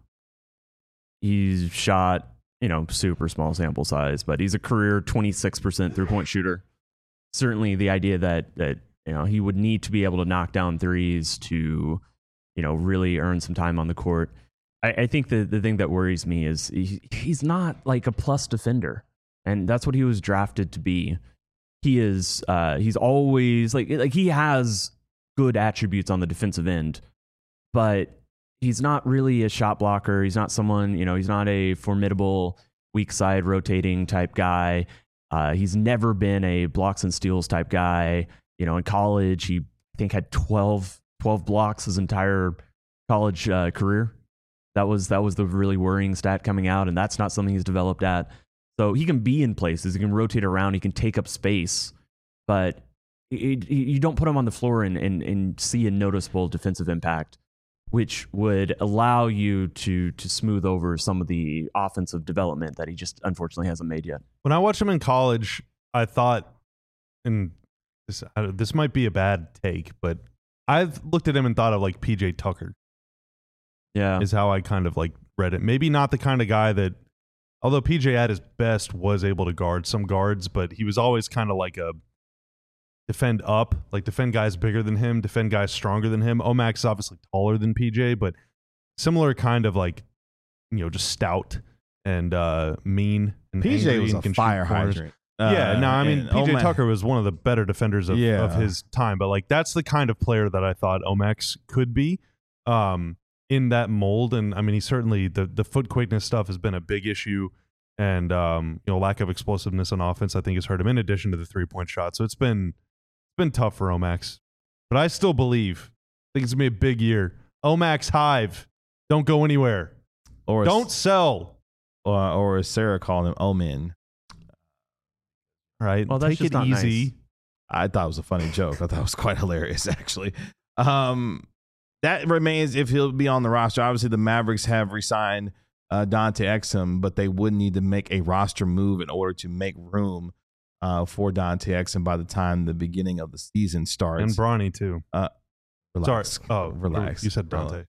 He's shot, you know, super small sample size, but he's a career twenty-six percent three-point shooter. Certainly the idea that, that, you know, he would need to be able to knock down threes to, you know, really earn some time on the court. I, I think the, the thing that worries me is he, he's not like a plus defender, and that's what he was drafted to be. He is, uh, he's always like, like he has good attributes on the defensive end, but he's not really a shot blocker. He's not someone, you know, he's not a formidable weak side rotating type guy. Uh, he's never been a blocks and steals type guy. You know, in college, he I think had twelve, twelve blocks his entire college uh, career. That was that was the really worrying stat coming out, and that's not something he's developed at. So he can be in places, he can rotate around, he can take up space, but it, it, you don't put him on the floor and, and, and see a noticeable defensive impact, which would allow you to to smooth over some of the offensive development that he just unfortunately hasn't made yet. When I watched him in college, I thought, and this, uh, this might be a bad take, but I've looked at him and thought of like P J Tucker. Yeah, is how I kind of like read it. Maybe not the kind of guy that, although P J at his best was able to guard some guards, but he was always kind of like a defend up, like defend guys bigger than him, defend guys stronger than him. Omax is obviously taller than P J, but similar kind of like, you know, just stout and uh, mean. And P J was and a can shoot fire corners. hydrant. Yeah, Uh, no, I mean, and P J Omax- Tucker was one of the better defenders of, Yeah. of his time, but like that's the kind of player that I thought Omax could be um, in that mold. And I mean, he certainly, the, the foot quickness stuff has been a big issue, and um, you know, lack of explosiveness on offense, I think, has hurt him in addition to the three point shot. So it's been it's been tough for Omax, but I still believe. I think it's gonna be a big year. Omax Hive, don't go anywhere. Or Don't sell. or, or as Sarah called him, Omen. Right? Well, that's Take just it not easy. nice. I thought it was a funny joke. I thought it was quite hilarious, actually. Um, that remains if he'll be on the roster. Obviously, the Mavericks have re-signed uh, Dante Exum, but they would need to make a roster move in order to make room uh, for Dante Exum by the time the beginning of the season starts. And Bronny too. Relax. Sorry. Oh, relax. You said Dante.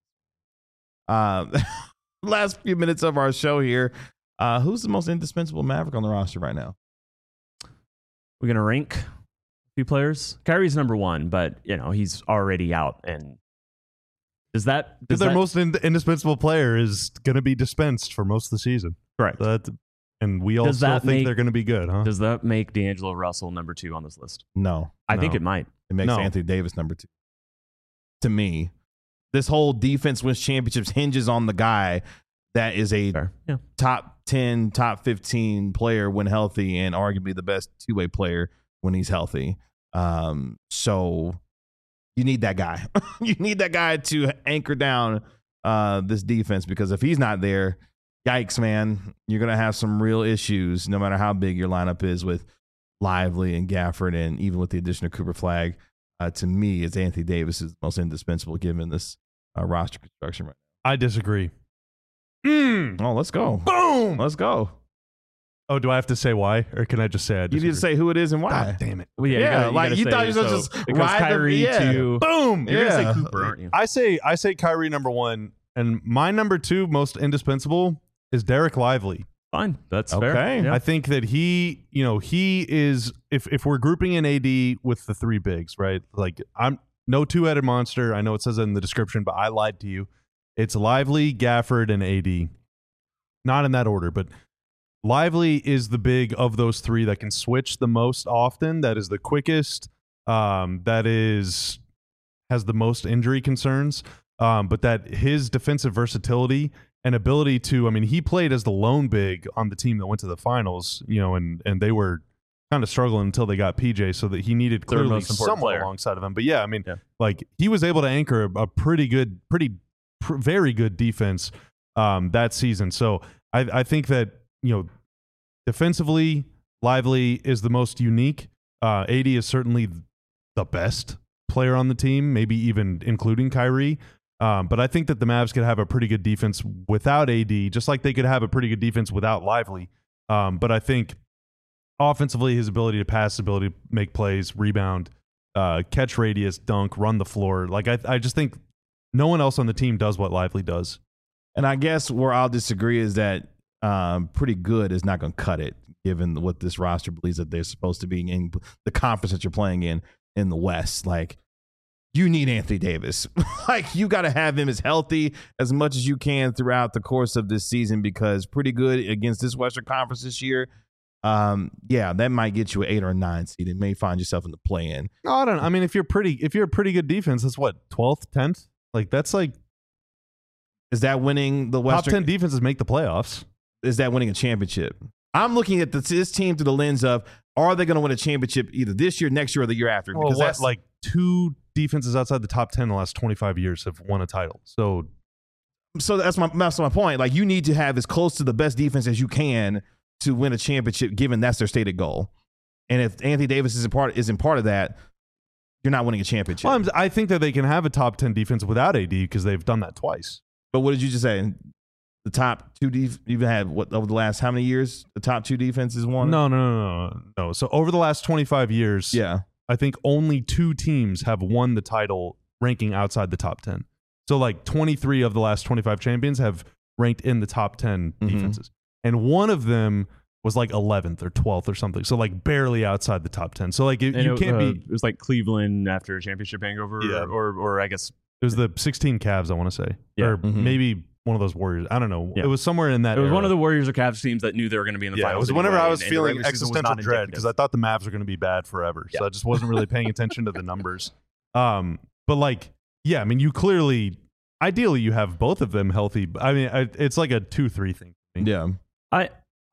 Uh, last few minutes of our show here. Uh, who's the most indispensable Maverick on the roster right now? We're gonna rank a few players. Kyrie's number one, but you know he's already out. And does that Because does their that, most in- indispensable player is going to be dispensed for most of the season. correct? So that, and we all Does still that think make- they're going to be good, huh? Does that make D'Angelo Russell number two on this list? No. I think No. it might. It makes No. Anthony Davis number two. To me, this whole defense wins championships hinges on the guy that is a Fair. Yeah. top ten, top fifteen player when healthy, and arguably the best two-way player when he's healthy. Um, so you need that guy. You need that guy to anchor down uh, this defense, because if he's not there, yikes, man, you're going to have some real issues no matter how big your lineup is with Lively and Gafford, and even with the addition of Cooper Flagg. Uh, to me, it's Anthony Davis is most indispensable given this uh, roster construction right I disagree. Mm, now. Oh, let's go. boom! Let's go. Oh, do I have to say why? Or can I just say I You disagree? need to say who it is and why. God damn it. Well, yeah, Yeah, you gotta, you like, gotta you say, thought you were so just it goes ride the- Kyrie yeah. to Boom! You're Yeah. gonna say Cooper, aren't you? I say I say Kyrie number one, and my number two most indispensable is Derek Lively. Fine, that's Okay. fair. Yeah. I think that he, you know, he is, if if we're grouping in A D with the three bigs, right? Like, I'm no two-headed monster. I know it says it in the description, but I lied to you. It's Lively, Gafford, and A D. Not in that order, but Lively is the big of those three that can switch the most often. That is the quickest. Um, that is has the most injury concerns. Um, but that his defensive versatility and ability to, I mean, he played as the lone big on the team that went to the finals, you know, and and they were kind of struggling until they got P J, so that he needed Third clearly most important someone player. alongside of him. But yeah, I mean, Yeah. like he was able to anchor a, a pretty good, pretty, pr- very good defense um, that season. So I, I think that, you know, defensively, Lively is the most unique. Uh, A D is certainly the best player on the team, maybe even including Kyrie. Um, but I think that the Mavs could have a pretty good defense without A D, just like they could have a pretty good defense without Lively. Um, but I think offensively, his ability to pass, ability to make plays, rebound, uh, catch radius, dunk, run the floor. Like I, I just think no one else on the team does what Lively does. And I guess where I'll disagree is that um, pretty good is not going to cut it, given what this roster believes that they're supposed to be in the conference that you're playing in in the West. Like, you need Anthony Davis. Like, you got to have him as healthy as much as you can throughout the course of this season, because pretty good against this Western Conference this year. Um, yeah, that might get you an eight or a nine seed. It may find yourself in the play-in. No, I don't. I mean, if you're pretty, if you're a pretty good defense, that's what twelfth, tenth. Like that's like Is that winning the top Western? ten defenses make the playoffs. Is that winning a championship? I'm looking at this, this team through the lens of, are they going to win a championship either this year, next year, or the year after? Well, Because what, that's like two defenses outside the top ten in the last twenty-five years have won a title. So so that's my that's my point. Like, you need to have as close to the best defense as you can to win a championship, given that's their stated goal. And if Anthony Davis isn't part isn't part of that, you're not winning a championship. well, I'm, I think that they can have a top ten defense without A D because they've done that twice. But what did you just say? The top two def- you've had what over the last how many years? The top two defenses won. No, no, no, no, no. So over the last twenty-five years, Yeah. I think only two teams have won the title ranking outside the top ten. So like twenty-three of the last twenty-five champions have ranked in the top ten Mhm. defenses. And one of them was like eleventh or twelfth or something. So like barely outside the top ten. So like it, And you it, can't uh, be, It was like Cleveland after a championship hangover, Yeah. or, or or I guess it was the sixteen Cavs, I want to say. Yeah. Or Mhm. maybe one of those Warriors. I don't know. Yeah. It was somewhere in that it was era. one of the Warriors or Cavs teams that knew they were going to be in the Yeah, it finals. was whenever anyway, I was and- and the feeling regular season was existential not dread indicative. because I thought the Mavs were going to be bad forever. So Yeah. I just wasn't really paying attention to the numbers. Um, but like, yeah, I mean, you clearly, ideally, you have both of them healthy. I mean, I, it's like a two three thing. Yeah. I,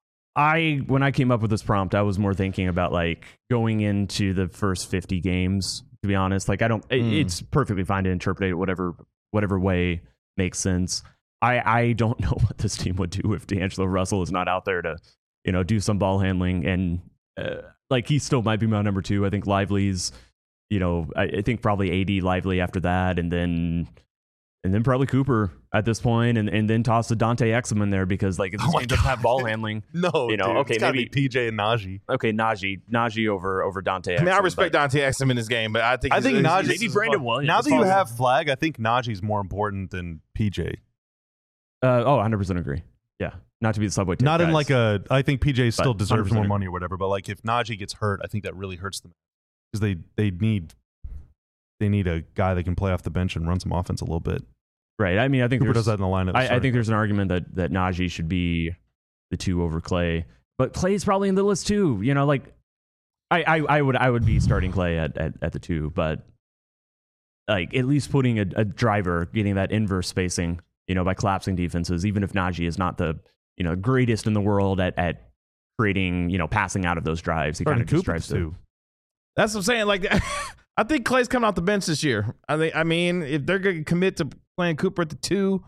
I when I came up with this prompt, I was more thinking about like going into the first fifty games. To be honest, like I don't, it- Mm. it's perfectly fine to interpret it whatever whatever way makes sense. I I don't know what this team would do if D'Angelo Russell is not out there to, you know, do some ball handling, and uh, like he still might be my number two. I think Lively's, you know, I, I think probably A D, Lively after that, and then. And then probably Cooper at this point, and, and then toss a Dante Exum in there because like if this Oh my team doesn't God. have ball handling. No, You know, dude, okay, it's gotta maybe- be P J and Najee. Okay, Najee, Najee over over Dante. I mean, I Exum, respect but- Dante Exum in this game, but I think I he's- think he's- Najee. maybe Brandon Williams. Now that you Falls- have Flag, I think Najee's more important than P J. Uh, oh, one hundred percent agree. Yeah, not to be the subway. Tip Not in guys. like a. I think P J still But deserves more one hundred percent money or whatever. But like if Najee gets hurt, I think that really hurts them because they they need they need a guy that can play off the bench and run some offense a little bit. right. I mean, I think Cooper there's does that in the lineup. I, I Sorry. think there's an argument that that Najee should be the two over Clay, but Clay's probably in the list too. You know, like I I, I would I would be starting Clay at, at at the two, but like at least putting a, a driver, getting that inverse spacing, you know, by collapsing defenses, even if Najee is not the you know greatest in the world at at creating you know passing out of those drives, he kind starting of just Cooper drives to. too. That's what I'm saying. Like, I think Clay's coming off the bench this year. I think. I mean, if they're going to commit to playing Cooper at the two,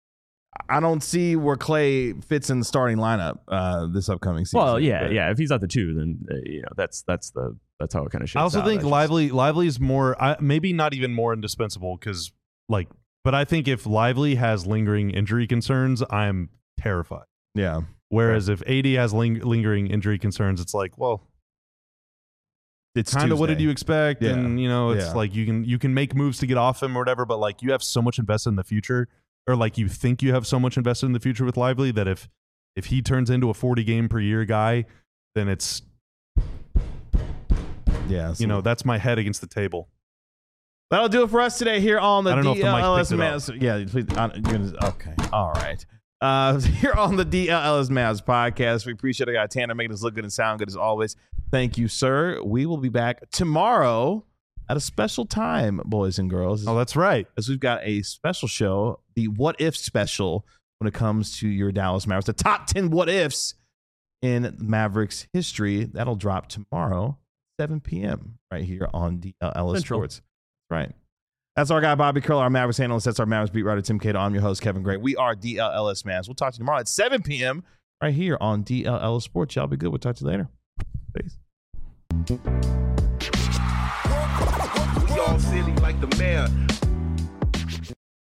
I don't see where Clay fits in the starting lineup uh, this upcoming season. Well, yeah, But- yeah. If he's at the two, then uh, you know that's that's the that's how it kind of shapes I also out. think That's just- Lively Lively is more I, maybe not even more indispensable because like but I think if Lively has lingering injury concerns, I'm terrified. Yeah. Whereas if A D has ling- lingering injury concerns, it's like, well, It's kind of what did Tuesday. you expect? Yeah. And you know, it's Yeah. like you can you can make moves to get off him or whatever, but like you have so much invested in the future, or like you think you have so much invested in the future with Lively that if if he turns into a forty game per year guy, then it's Yeah. so- you know that's my head against the table. That'll do it for us today here on the I don't know if the mic D L L S picked it up. Mavs. Yeah, please. uh, you're gonna- Okay. All right. Uh, here on the D L L S Mavs podcast, we appreciate it. Got Tanner making us look good and sound good as always. Thank you, sir. We will be back tomorrow at a special time, boys and girls. Oh, that's right. As we've got a special show, the What If special, when it comes to your Dallas Mavericks. The top ten what ifs in Mavericks history. That'll drop tomorrow, seven p.m. right here on D L L S Central. Sports. Right. That's our guy, Bobby Curl, our Mavericks analyst. That's our Mavericks beat writer, Tim Cato. I'm your host, Kevin Gray. We are D L L S Mavs. We'll talk to you tomorrow at seven p.m. right here on D L L S Sports. Y'all be good. We'll talk to you later. Peace. We all silly like the mayor.